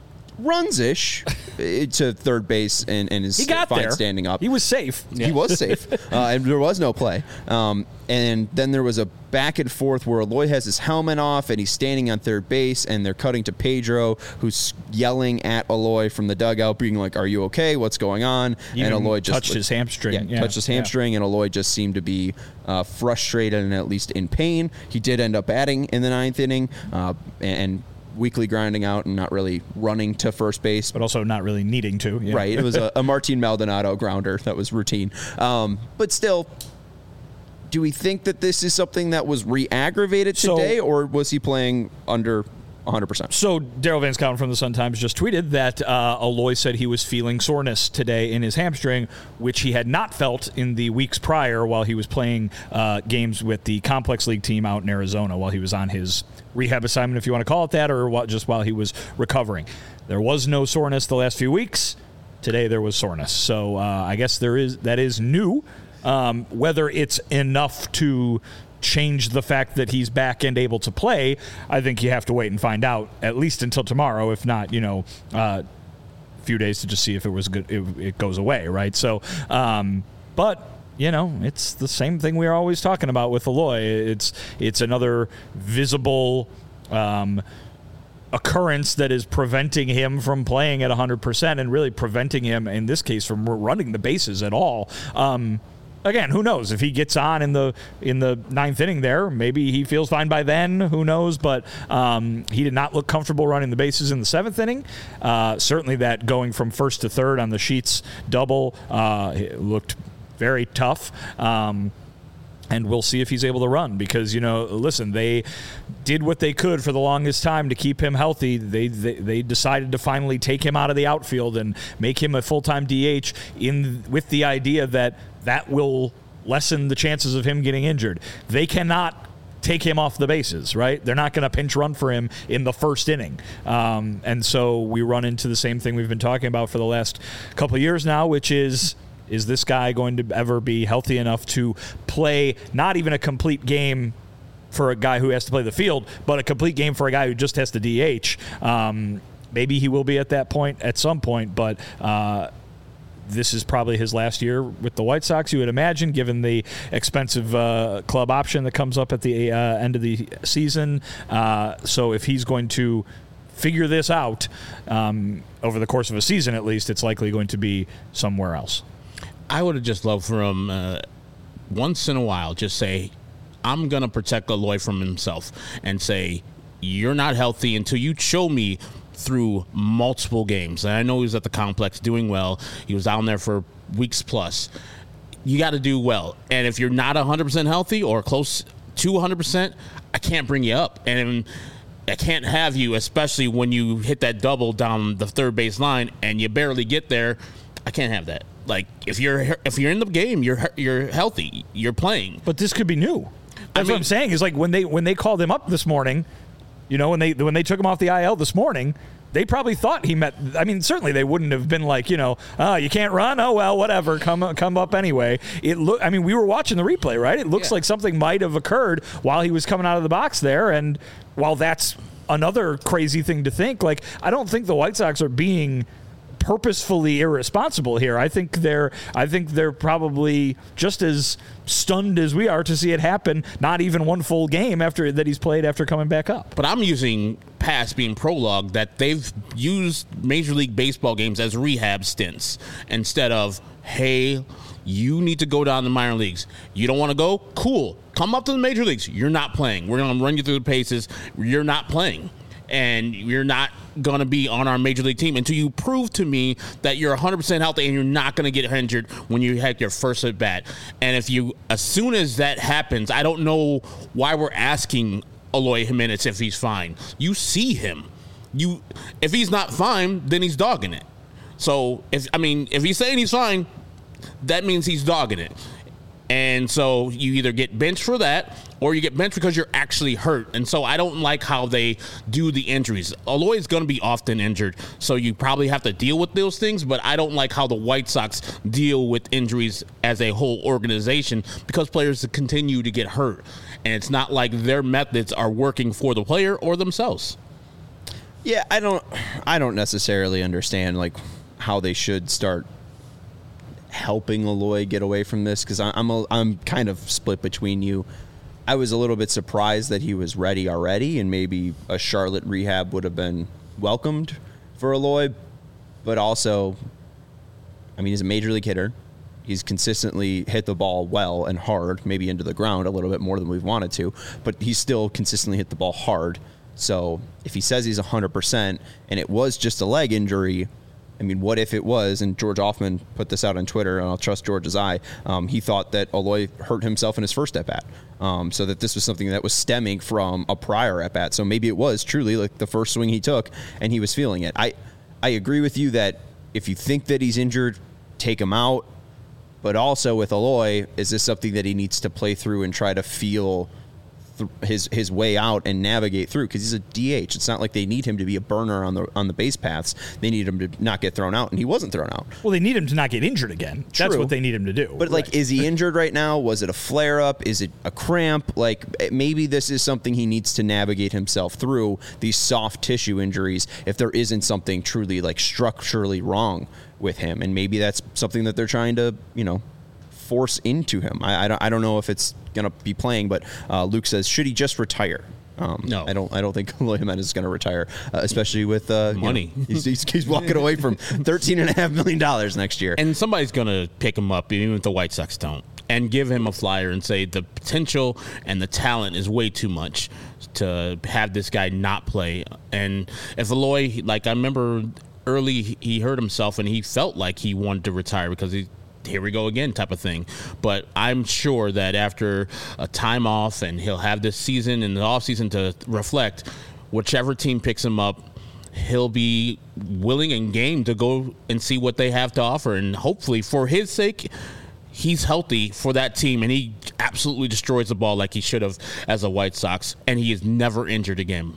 runs-ish to third base and, and is He got fine there. standing up. He was safe. He was safe, uh, and there was no play. Um, and then there was a back and forth where Eloy has his helmet off, and he's standing on third base, and they're cutting to Pedro, who's yelling at Eloy from the dugout, being like, "Are you okay? What's going on?" He and even Eloy just touched his hamstring. Yeah, Yeah, touched his yeah. hamstring, and Eloy just seemed to be uh, frustrated and at least in pain. He did end up batting in the ninth inning, uh, and weakly grinding out and not really running to first base. But also not really needing to. Yeah. Right. It was a, a Martin Maldonado grounder that was routine. Um, but still, do we think that this is something that was re-aggravated So- today, or was he playing under one hundred percent? So Daryl Van Scouten from the Sun-Times just tweeted that uh, Eloy said he was feeling soreness today in his hamstring, which he had not felt in the weeks prior while he was playing uh, games with the Complex League team out in Arizona while he was on his rehab assignment, if you want to call it that, or what, just while he was recovering. There was no soreness the last few weeks. Today there was soreness. So uh, I guess there is that is new. Um, whether it's enough to change the fact that he's back and able to play, I think you have to wait and find out at least until tomorrow, if not, you know, uh, a few days to just see if it was good, it, it goes away, right? So, um, but you know, it's the same thing we are always talking about with Eloy. It's it's another visible um, occurrence that is preventing him from playing at one hundred percent and really preventing him, in this case, from running the bases at all. Um, Again, who knows if he gets on in the in the ninth inning there? Maybe he feels fine by then. Who knows? But um, he did not look comfortable running the bases in the seventh inning. Uh, certainly, that going from first to third on the Sheets double uh, it looked very tough. Um, And we'll see if he's able to run because, you know, listen, they did what they could for the longest time to keep him healthy. They they, they decided to finally take him out of the outfield and make him a full-time D H in with the idea that that will lessen the chances of him getting injured. They cannot take him off the bases, right? They're not going to pinch run for him in the first inning. Um, and so we run into the same thing we've been talking about for the last couple of years now, which is, is this guy going to ever be healthy enough to play not even a complete game for a guy who has to play the field, but a complete game for a guy who just has to D H? Um, maybe he will be at that point at some point, but uh, this is probably his last year with the White Sox, you would imagine, given the expensive uh, club option that comes up at the uh, end of the season. Uh, so if he's going to figure this out um, over the course of a season, at least, it's likely going to be somewhere else. I would have just loved for him uh, once in a while just say, I'm going to protect Eloy from himself and say, you're not healthy until you show me through multiple games. And I know he was at the complex doing well. He was down there for weeks plus. You got to do well. And if you're not one hundred percent healthy or close to one hundred percent, I can't bring you up. And I can't have you, especially when you hit that double down the third base line and you barely get there. I can't have that. Like, if you're if you're in the game, you're you're healthy, you're playing. But this could be new. That's I mean, what I'm saying. Is like when they when they called him up this morning, you know, when they when they took him off the I L this morning, they probably thought he met. I mean, certainly they wouldn't have been like, you know, oh, you can't run. Oh well, whatever. Come come up anyway. It look. I mean, we were watching the replay, right? It looks yeah. like something might have occurred while he was coming out of the box there. And while that's another crazy thing to think, like I don't think the White Sox are being purposefully irresponsible here. I think they're I think they're probably just as stunned as we are to see it happen, not even one full game after that he's played after coming back up. But I'm using past being prologue that they've used Major League Baseball games as rehab stints instead of, hey, you need to go down to minor leagues. You don't want to go? Cool. Come up to the major leagues. You're not playing. We're going to run you through the paces. You're not playing. And you're not going to be on our major league team until you prove to me that you're one hundred percent healthy and you're not going to get injured when you have your first at bat. And if you, as soon as that happens, I don't know why we're asking Eloy Jimenez if he's fine. You see him. You, if he's not fine, then he's dogging it. So if I mean, if he's saying he's fine, that means he's dogging it. And so you either get benched for that or you get benched because you're actually hurt. And so I don't like how they do the injuries. Eloy is going to be often injured, so you probably have to deal with those things. But I don't like how the White Sox deal with injuries as a whole organization because players continue to get hurt. And it's not like their methods are working for the player or themselves. Yeah, I don't I don't necessarily understand like how they should start helping Eloy get away from this, because I'm a, I'm kind of split between you. I was a little bit surprised that he was ready already, and maybe a Charlotte rehab would have been welcomed for Eloy. But also, I mean, he's a major league hitter. He's consistently hit the ball well and hard, maybe into the ground a little bit more than we've wanted to, but he's still consistently hit the ball hard. So if he says he's one hundred percent and it was just a leg injury, I mean, what if it was, and George Hoffman put this out on Twitter, and I'll trust George's eye, um, he thought that Eloy hurt himself in his first at-bat, um, so that this was something that was stemming from a prior at-bat. So maybe it was truly like the first swing he took, and he was feeling it. I, I agree with you that if you think that he's injured, take him out. But also with Eloy, is this something that he needs to play through and try to feel th- his his way out and navigate through? Because he's a D H. It's not like they need him to be a burner on the on the base paths. They need him to not get thrown out, and he wasn't thrown out. Well, they need him to not get injured again. True. That's what they need him to do. But, like, right. Is he injured right now? Was it a flare-up? Is it a cramp? Like, maybe this is something he needs to navigate himself through, these soft tissue injuries, if there isn't something truly, like, structurally wrong with him. And maybe that's something that they're trying to, you know, force into him. I, I, don't, I don't know if it's going to be playing, but uh, Luke says, should he just retire? Um, no, I don't. I don't think Eloy Jimenez is going to retire, uh, especially with uh, money. You know, he's, he's, he's walking away from thirteen and a half million dollars next year, and somebody's going to pick him up, even if the White Sox don't, and give him a flyer and say the potential and the talent is way too much to have this guy not play. And if Eloy, like I remember early, he hurt himself and he felt like he wanted to retire because he. Here we go again type of thing. But I'm sure that after a time off, and he'll have this season and the off season to reflect, whichever team picks him up, he'll be willing and game to go and see what they have to offer. And hopefully for his sake, he's healthy for that team, and he absolutely destroys the ball like he should have as a White Sox, and he is never injured again.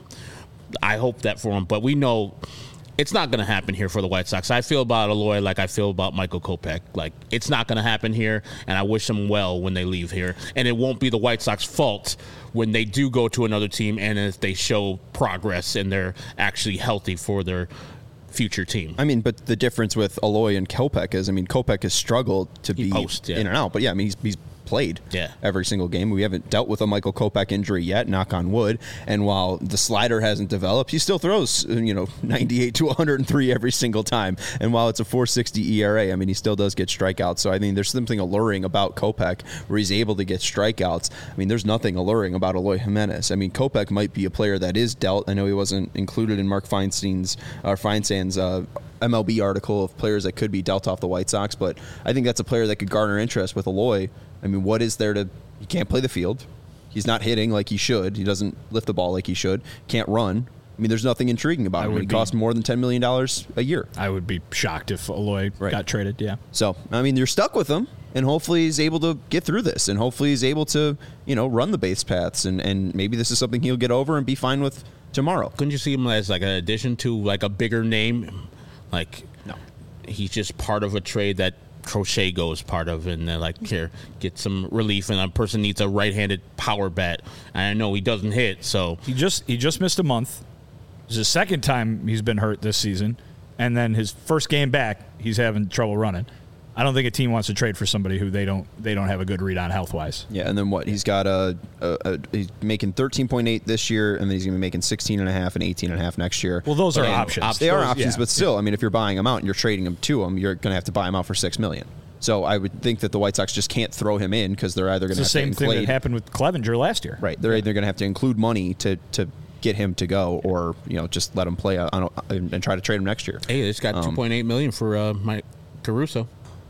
I hope that for him, but we know it's not going to happen here for the White Sox. I feel about Eloy like I feel about Michael Kopech. Like, it's not going to happen here, and I wish them well when they leave here. And it won't be the White Sox fault when they do go to another team and if they show progress and they're actually healthy for their future team. I mean, but the difference with Eloy and Kopech is, I mean, Kopech has struggled to He be posts, yeah. in and out. But, yeah, I mean, he's, he's played Yeah. every single game. We haven't dealt with a Michael Kopech injury yet, knock on wood. And while the slider hasn't developed, he still throws, you know, ninety-eight to one hundred three every single time. And while it's a four sixty E R A, I mean, he still does get strikeouts. So, I mean, there's something alluring about Kopech where he's able to get strikeouts. I mean, there's nothing alluring about Eloy Jimenez. I mean, Kopech might be a player that is dealt. I know he wasn't included in Mark Feinstein's, or Feinstein's, uh, M L B article of players that could be dealt off the White Sox, but I think that's a player that could garner interest with Eloy. I mean, what is there to... He can't play the field. He's not hitting like he should. He doesn't lift the ball like he should. Can't run. I mean, there's nothing intriguing about I him. would He be- costs more than ten million dollars a year. I would be shocked if Eloy Right. got traded. Yeah. So, I mean, you're stuck with him, and hopefully he's able to get through this, and hopefully he's able to, you know, run the base paths, and, and maybe this is something he'll get over and be fine with tomorrow. Couldn't you see him as like an addition to like a bigger name? Like, No. he's just part of a trade that Crochet goes part of, and they're like, here, get some relief, and a person needs a right-handed power bat. And I know he doesn't hit, so He just he just missed a month. This is the second time he's been hurt this season, and then his first game back, he's having trouble running. I don't think a team wants to trade for somebody who they don't they don't have a good read on health wise. Yeah, and then what? He's got a, a, a he's making thirteen point eight this year, and then he's going to be making sixteen and a half and eighteen and a half next year. Well, those are Yeah, options. op- They are Those- options, yeah. but still, I mean, if you're buying them out and you're trading them to them, you're going to have to buy them out for six million. So I would think that the White Sox just can't throw him in because they're either going It's to the have same to thing that include happened with Clevenger last year. right. They're either going to have to include money to to get him to go, or you know, just let him play on a, and, and try to trade him next year. hey, they just got Um, two point eight million for uh, Mike Caruso.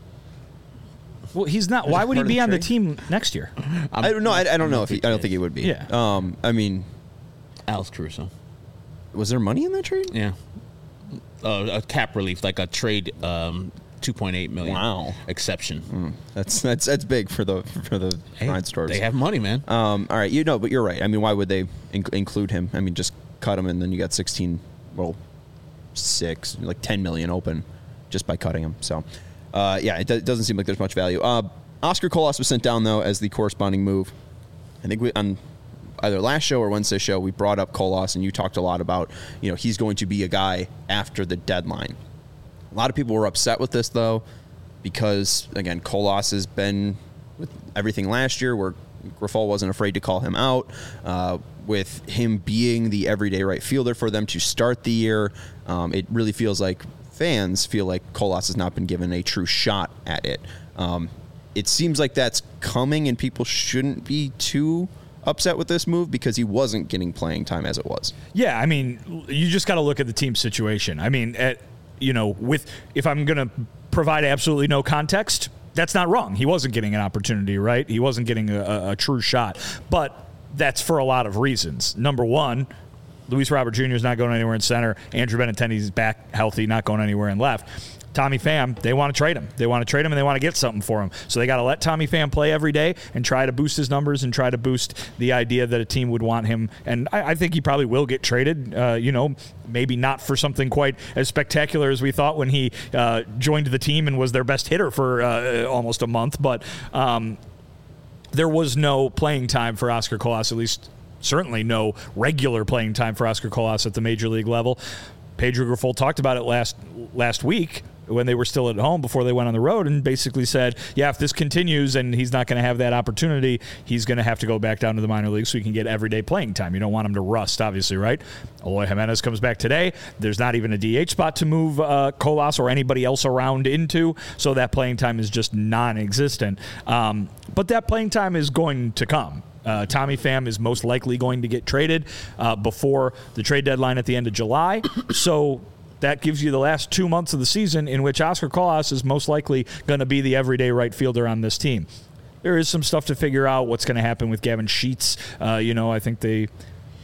Well, he's not. Why would he part of be the on the trade? team next year? I don't know. I, I don't know if he, I don't think he would be. Yeah. Um. I mean, Alex Caruso. was there money in that trade? Yeah. Uh, a cap relief, like a trade, um, two point eight million. Wow. Exception. That's that's that's big for the for the Hey, Ryan Storrs. they have money, man. Um, all right, you know, but you're right. I mean, why would they in- include him? I mean, just cut him, and then you got sixteen, well, six, like ten million open just by cutting him. So, uh, yeah, it, do- it doesn't seem like there's much value. Uh, Oscar Colas was sent down though as the corresponding move. I think we on either last show or Wednesday show we brought up Colas, and you talked a lot about, you know, he's going to be a guy after the deadline. A lot of people were upset with this though, because again, Colas has been with everything last year where Grifol wasn't afraid to call him out, uh, with him being the everyday right fielder for them to start the year. Um, it really feels like fans feel like Colas has not been given a true shot at it. Um, it seems like that's coming, and people shouldn't be too upset with this move because he wasn't getting playing time as it was. Yeah, I mean, you just got to look at the team situation. I mean, at, you know, with if I'm going to provide absolutely no context, that's not wrong. He wasn't getting an opportunity, right? He wasn't getting a, a, a true shot. But that's for a lot of reasons. Number one, Luis Robert Junior is not going anywhere in center. Andrew Benintendi's back healthy, not going anywhere in left. Tommy Pham, they want to trade him. They want to trade him, and they want to get something for him. So they got to let Tommy Pham play every day and try to boost his numbers and try to boost the idea that a team would want him. And I, I think he probably will get traded, uh, you know, maybe not for something quite as spectacular as we thought when he uh, joined the team and was their best hitter for uh, almost a month. But um, there was no playing time for Oscar Colas, at least certainly no regular playing time for Oscar Colas at the major league level. Pedro Grifol talked about it last last week when they were still at home before they went on the road, and basically said, yeah, if this continues and he's not going to have that opportunity, he's going to have to go back down to the minor leagues so he can get everyday playing time. You don't want him to rust, obviously, right? Eloy Jimenez comes back today. There's not even a D H spot to move uh, Colas or anybody else around into, so that playing time is just non-existent. Um, but that playing time is going to come. Uh, Tommy Pham is most likely going to get traded uh, before the trade deadline at the end of July. So that gives you the last two months of the season in which Oscar Colas is most likely going to be the everyday right fielder on this team. There is some stuff to figure out what's going to happen with Gavin Sheets. Uh, you know, I think they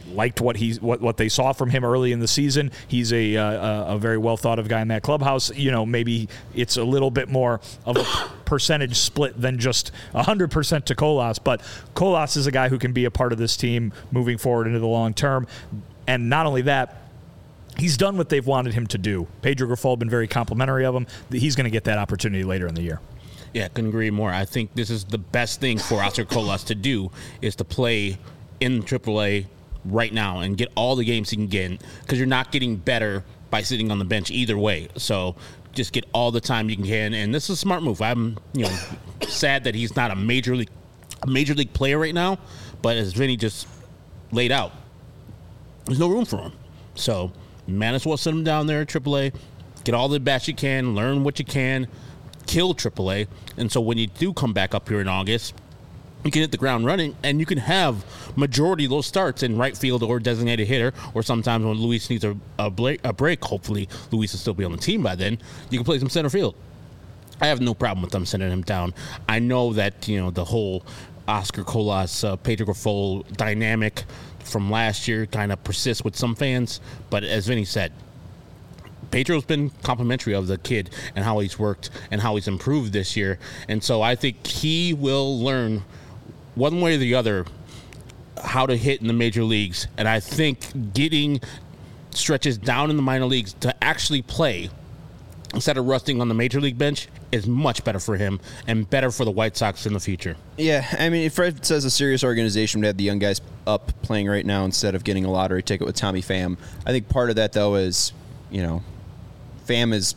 liked what he's what, what they saw from him early in the season. He's a uh, a very well thought of guy in that clubhouse. You know, maybe it's a little bit more of a percentage split than just one hundred percent to Colas, but Colas is a guy who can be a part of this team moving forward into the long term. And not only that, he's done what they've wanted him to do. Pedro Grifol been very complimentary of him. He's going to get that opportunity later in the year. Yeah, couldn't agree more. I think this is the best thing for Oscar Colas to do is to play in triple A right now and get all the games he can get, because you're not getting better by sitting on the bench either way. So just get all the time you can, and this is a smart move. I'm, you know, sad that he's not a major league, a major league player right now, but as Vinny just laid out, there's no room for him. So might as well send him down there at triple A, get all the bats you can, learn what you can, kill triple A, and so when you do come back up here in August, you can hit the ground running, and you can have majority of those starts in right field or designated hitter, or sometimes when Luis needs a, a, break, a break, hopefully Luis will still be on the team by then, you can play some center field. I have no problem with them sending him down. I know that, you know, the whole Oscar Colas, uh, Pedro Grifol dynamic from last year kind of persists with some fans, but as Vinny said, Pedro's been complimentary of the kid and how he's worked and how he's improved this year, and so I think he will learn one way or the other how to hit in the major leagues, and I think getting stretches down in the minor leagues to actually play instead of rusting on the major league bench is much better for him and better for the White Sox in the future. Yeah, I mean, if Fred says a serious organization would have the young guys up playing right now instead of getting a lottery ticket with Tommy Pham, I think part of that, though, is, you know, Pham is,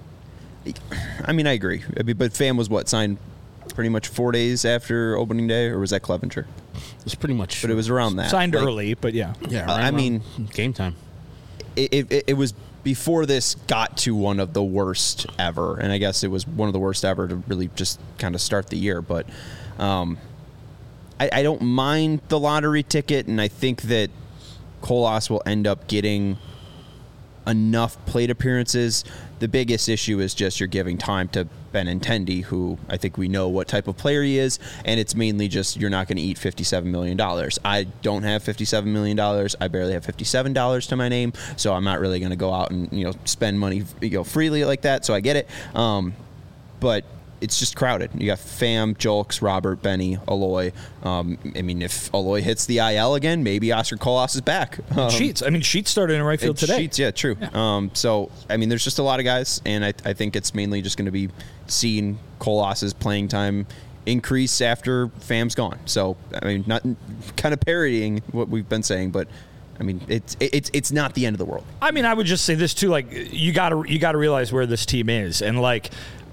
I mean, I agree. I mean, but Pham was what, signed pretty much four days after opening day, or was that Clevenger? It's pretty much. But it was around that. Signed like, early, but yeah. Yeah, uh, I mean, game time. It, it, it was before this got to one of the worst ever, and I guess it was one of the worst ever to really just kind of start the year. But um, I, I don't mind the lottery ticket, and I think that Colas will end up getting enough plate appearances. The biggest issue is just you're giving time to Benintendi, who I think we know what type of player he is, and it's mainly just you're not going to eat fifty-seven million dollars. I don't have fifty-seven million dollars. I barely have fifty-seven dollars to my name, so I'm not really going to go out and, you know, spend money, you know, freely like that, so I get it. Um, but it's just crowded. You got Pham, Julks, Robert, Benny, Eloy. Um, I mean, if Eloy hits the I L again, maybe Oscar Colas is back. Um, Sheets. I mean, Sheets started in right field today. Sheets, yeah, true. Yeah. Um, so, I mean, there's just a lot of guys, and I, I think it's mainly just going to be seeing Colas's playing time increase after Pham's gone. So, I mean, not kind of parodying what we've been saying, but I mean, it's it's it's not the end of the world. I mean, I would just say this too: like, you got to you got to realize where this team is, and like,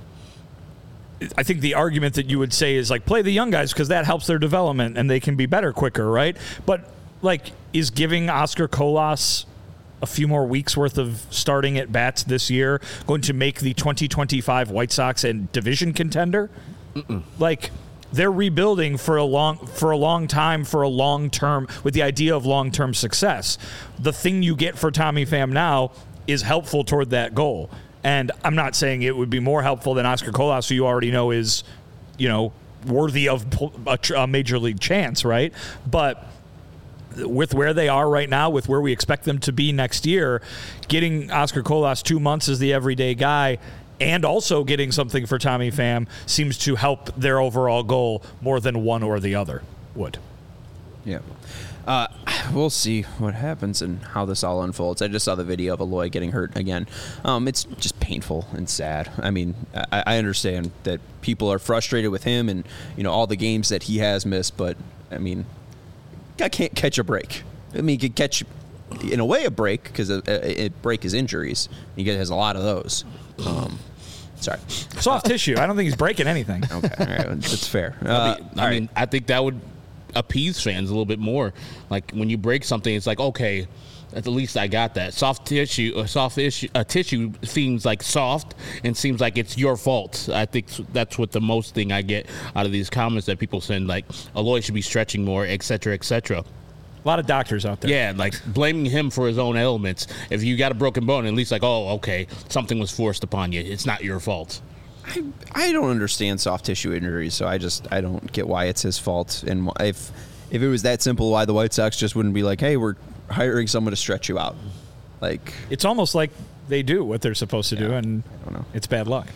I think the argument that you would say is like play the young guys because that helps their development and they can be better quicker, right? But like, is giving Oscar Colas a few more weeks worth of starting at bats this year going to make the twenty twenty-five White Sox a division contender? Mm-mm. Like, they're rebuilding for a long for a long time for a long term with the idea of long term success. The thing you get for Tommy Pham now is helpful toward that goal. And I'm not saying it would be more helpful than Oscar Colas, who you already know is, you know, worthy of a, a major league chance, right? But with where they are right now, with where we expect them to be next year, getting Oscar Colas two months as the everyday guy and also getting something for Tommy Pham seems to help their overall goal more than one or the other would. Yeah. Uh, we'll see what happens and how this all unfolds. I just saw the video of Eloy getting hurt again. Um, it's just painful and sad. I mean, I, I understand that people are frustrated with him and, you know, all the games that he has missed, but, I mean, guy can't catch a break. I mean, he could catch, in a way, a break because a, a, a break is injuries. He has a lot of those. Um, sorry. Soft tissue. I don't think he's breaking anything. Okay. All right. That's fair. Uh, I mean, I, mean I think that would appease fans a little bit more. Like when you break something, it's like, okay, at least I got that. Soft tissue, a soft issue, a tissue seems like soft and seems like it's your fault. I think that's what the most thing I get out of these comments that people send, like Eloy should be stretching more, et cetera, et cetera. A lot of doctors out there. Yeah, like blaming him for his own ailments. If you got a broken bone, at least like, oh, okay, something was forced upon you. It's not your fault. I, I don't understand soft tissue injuries, so I just I don't get why it's his fault. And if If it was that simple, why the White Sox just wouldn't be like, hey, we're hiring someone to stretch you out? Like, it's almost like they do what they're supposed to yeah, do, and I don't know. It's bad luck.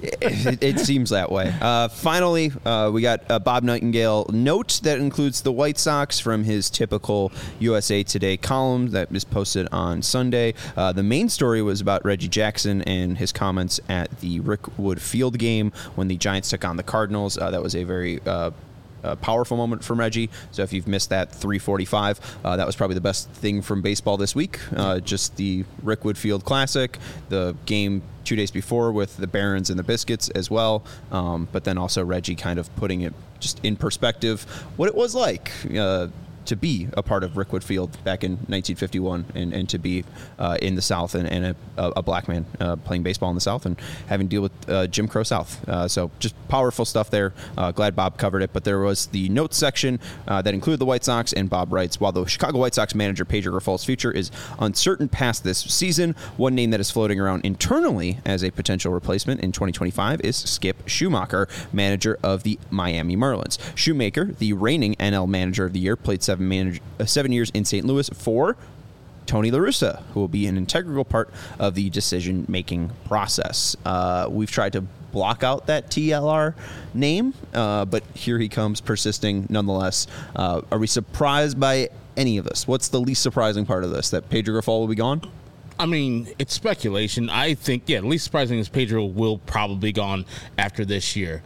it, it seems that way. Uh, finally, uh, we got uh, Bob Nightingale note that includes the White Sox from his typical U S A Today column that is posted on Sunday. Uh, the main story was about Reggie Jackson and his comments at the Rick Wood Field game when the Giants took on the Cardinals. Uh, that was a very uh, A powerful moment from Reggie. So if you've missed that three forty-five, uh, that was probably the best thing from baseball this week. Uh, just the Rick Wood Field Classic, the game two days before with the Barons and the Biscuits as well. Um, but then also Reggie kind of putting it just in perspective, what it was like uh, to be a part of Rick Wood Field back in nineteen fifty-one and, and to be uh, in the South and, and a, a black man uh, playing baseball in the South and having to deal with uh, Jim Crow South. Uh, so just powerful stuff there. Uh, glad Bob covered it. But there was the notes section uh, that included the White Sox, and Bob writes, while the Chicago White Sox manager Pedro Grifol's future is uncertain past this season, one name that is floating around internally as a potential replacement in twenty twenty-five is Skip Schumacher, manager of the Miami Marlins. Shoemaker, the reigning N L manager of the year, played seven Manager, uh, seven years in Saint Louis for Tony La Russa, who will be an integral part of the decision-making process. Uh, we've tried to block out that T L R name, uh, but here he comes, persisting nonetheless. Uh, are we surprised by any of this? What's the least surprising part of this, that Pedro Grifol will be gone? I mean, it's speculation. I think, yeah, the least surprising is Pedro will probably be gone after this year.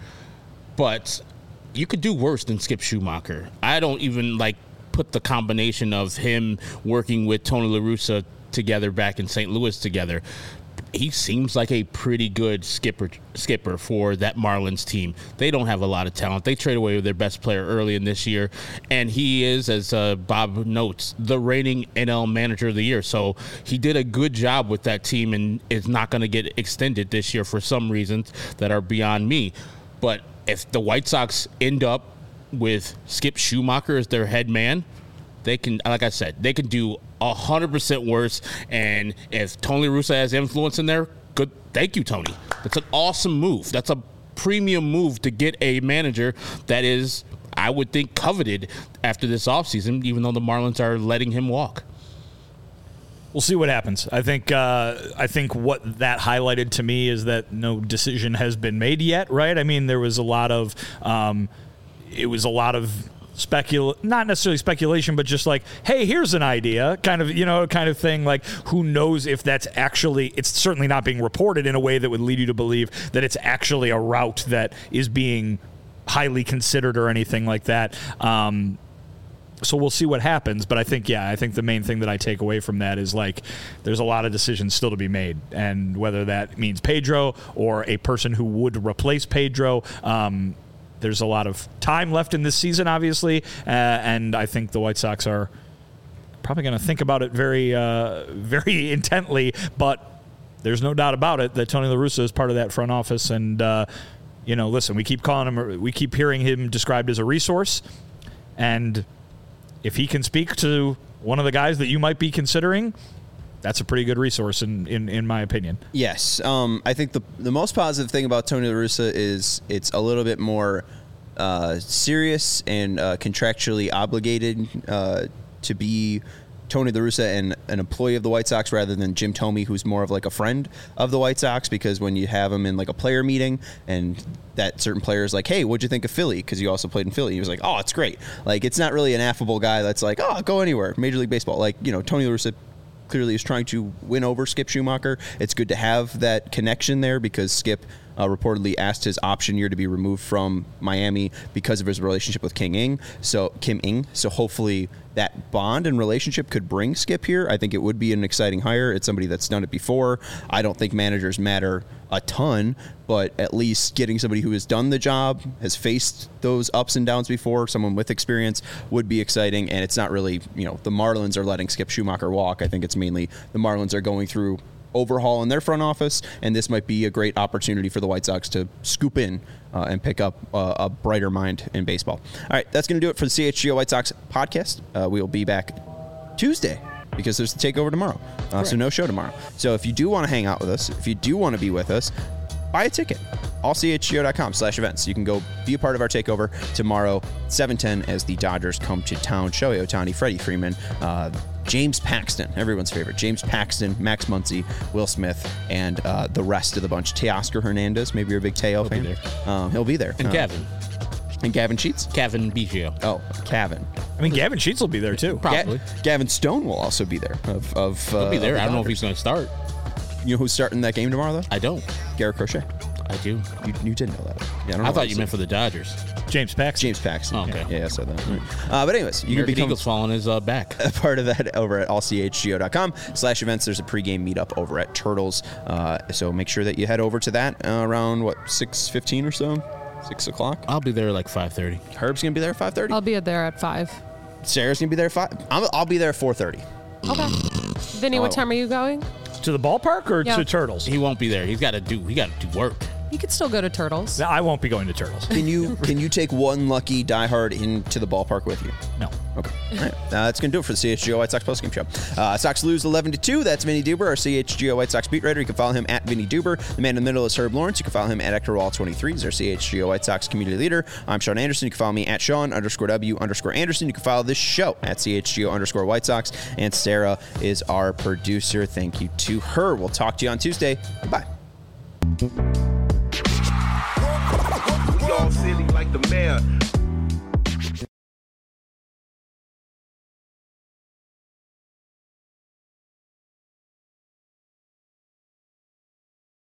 But you could do worse than Skip Schumacher. I don't even, like, put the combination of him working with Tony La Russa together back in Saint Louis together. He seems like a pretty good skipper skipper for that Marlins team. They don't have a lot of talent. They trade away with their best player early in this year, and he is, as uh, Bob notes, the reigning N L manager of the year. So he did a good job with that team and is not going to get extended this year for some reasons that are beyond me. But if the White Sox end up with Skip Schumacher as their head man, they can, like I said, they can do one hundred percent worse. And if Tony La Russa has influence in there, good. Thank you, Tony. That's an awesome move. That's a premium move to get a manager that is, I would think, coveted after this offseason, even though the Marlins are letting him walk. We'll see what happens. I think uh, I think what that highlighted to me is that no decision has been made yet, right? I mean, there was a lot of um, it was a lot of specul not necessarily speculation, but just like, hey, here's an idea, kind of, you know, kind of thing. Like, who knows if that's actually, it's certainly not being reported in a way that would lead you to believe that it's actually a route that is being highly considered or anything like that. Um, So we'll see what happens. But I think, yeah, I think the main thing that I take away from that is, like, there's a lot of decisions still to be made. And whether that means Pedro or a person who would replace Pedro, um, there's a lot of time left in this season, obviously. Uh, and I think the White Sox are probably going to think about it very, uh, very intently. But there's no doubt about it that Tony La Russa is part of that front office. And, uh, you know, listen, we keep calling him, we keep hearing him described as a resource. And if he can speak to one of the guys that you might be considering, that's a pretty good resource, in, in, in my opinion. Yes. Um, I think the the most positive thing about Tony La Russa is it's a little bit more uh, serious and uh, contractually obligated uh, to be Tony La Russa and an employee of the White Sox rather than Jim Thome, who's more of like a friend of the White Sox, because when you have him in like a player meeting and that certain player is like, hey, what'd you think of Philly? Because you also played in Philly. He was like, oh, it's great. Like, it's not really an affable guy that's like, oh, go anywhere. Major League Baseball. Like, you know, Tony La Russa clearly is trying to win over Skip Schumacher. It's good to have that connection there because Skip uh, reportedly asked his option year to be removed from Miami because of his relationship with King Ing. So Kim Ing. So hopefully that bond and relationship could bring Skip here. I think it would be an exciting hire. It's somebody that's done it before. I don't think managers matter a ton, but at least getting somebody who has done the job, has faced those ups and downs before, someone with experience would be exciting. And it's not really, you know, the Marlins are letting Skip Schumacher walk. I think it's mainly the Marlins are going through overhaul in their front office, and this might be a great opportunity for the White Sox to scoop in uh, and pick up uh, a brighter mind in baseball. All right, that's going to do it for the C H G O White Sox podcast. Uh, we will be back Tuesday because there's the takeover tomorrow, uh, so no show tomorrow. So if you do want to hang out with us, if you do want to be with us, buy a ticket. all c h g o dot com slash events. You can go be a part of our takeover tomorrow, seven ten, as the Dodgers come to town. Shohei Ohtani, Freddie Freeman, uh, James Paxton, everyone's favorite. James Paxton, Max Muncy, Will Smith, and uh, the rest of the bunch. Teoscar Hernandez, maybe you're a big Teo fan. Be um, he'll be there. And uh, Gavin. And Gavin Sheets? Kevin Biggio. Oh, Kevin. I mean, Gavin Sheets will be there too. Probably. Ga- Gavin Stone will also be there. Of, of uh, He'll be there. of the I don't know if Dodgers. he's going to start. You know who's starting that game tomorrow, though? I don't. Garrett Crochet. I do. You, you did know that. Yeah, I, don't know I why thought you said- meant for the Dodgers. James Paxton. James Paxton. Oh, okay. Yeah, yeah, I said that. Uh, but anyways, you American can become Eagles falling his uh, back. a part of that over at all c h g o dot com slash events. There's a pregame meetup over at Turtles. Uh, so make sure that you head over to that uh, around, what, six fifteen or so? six o'clock? I'll be there like five thirty. Herb's going to be there at five thirty? I'll be there at five. Sarah's going to be there at five? I'm, I'll be there at four thirty. Okay. Vinny, what Oh. time are you going? To the ballpark or Yeah. to Turtles? He won't be there. He's got to do. He got to do work. You could still go to Turtles. No, I won't be going to Turtles. Can you can you take one lucky diehard into the ballpark with you? No. Okay. All right. Uh, that's going to do it for the C H G O White Sox postgame show. Uh, Sox lose eleven to two. That's Vinny Duber, our C H G O White Sox beat writer. You can follow him at Vinny Duber. The man in the middle is Herb Lawrence. You can follow him at Hector Wall twenty-three. He's our C H G O White Sox community leader. I'm Sean Anderson. You can follow me at Sean underscore W underscore Anderson. You can follow this show at C H G O underscore White Sox. And Sarah is our producer. Thank you to her. We'll talk to you on Tuesday. Bye. We all silly like the mayor.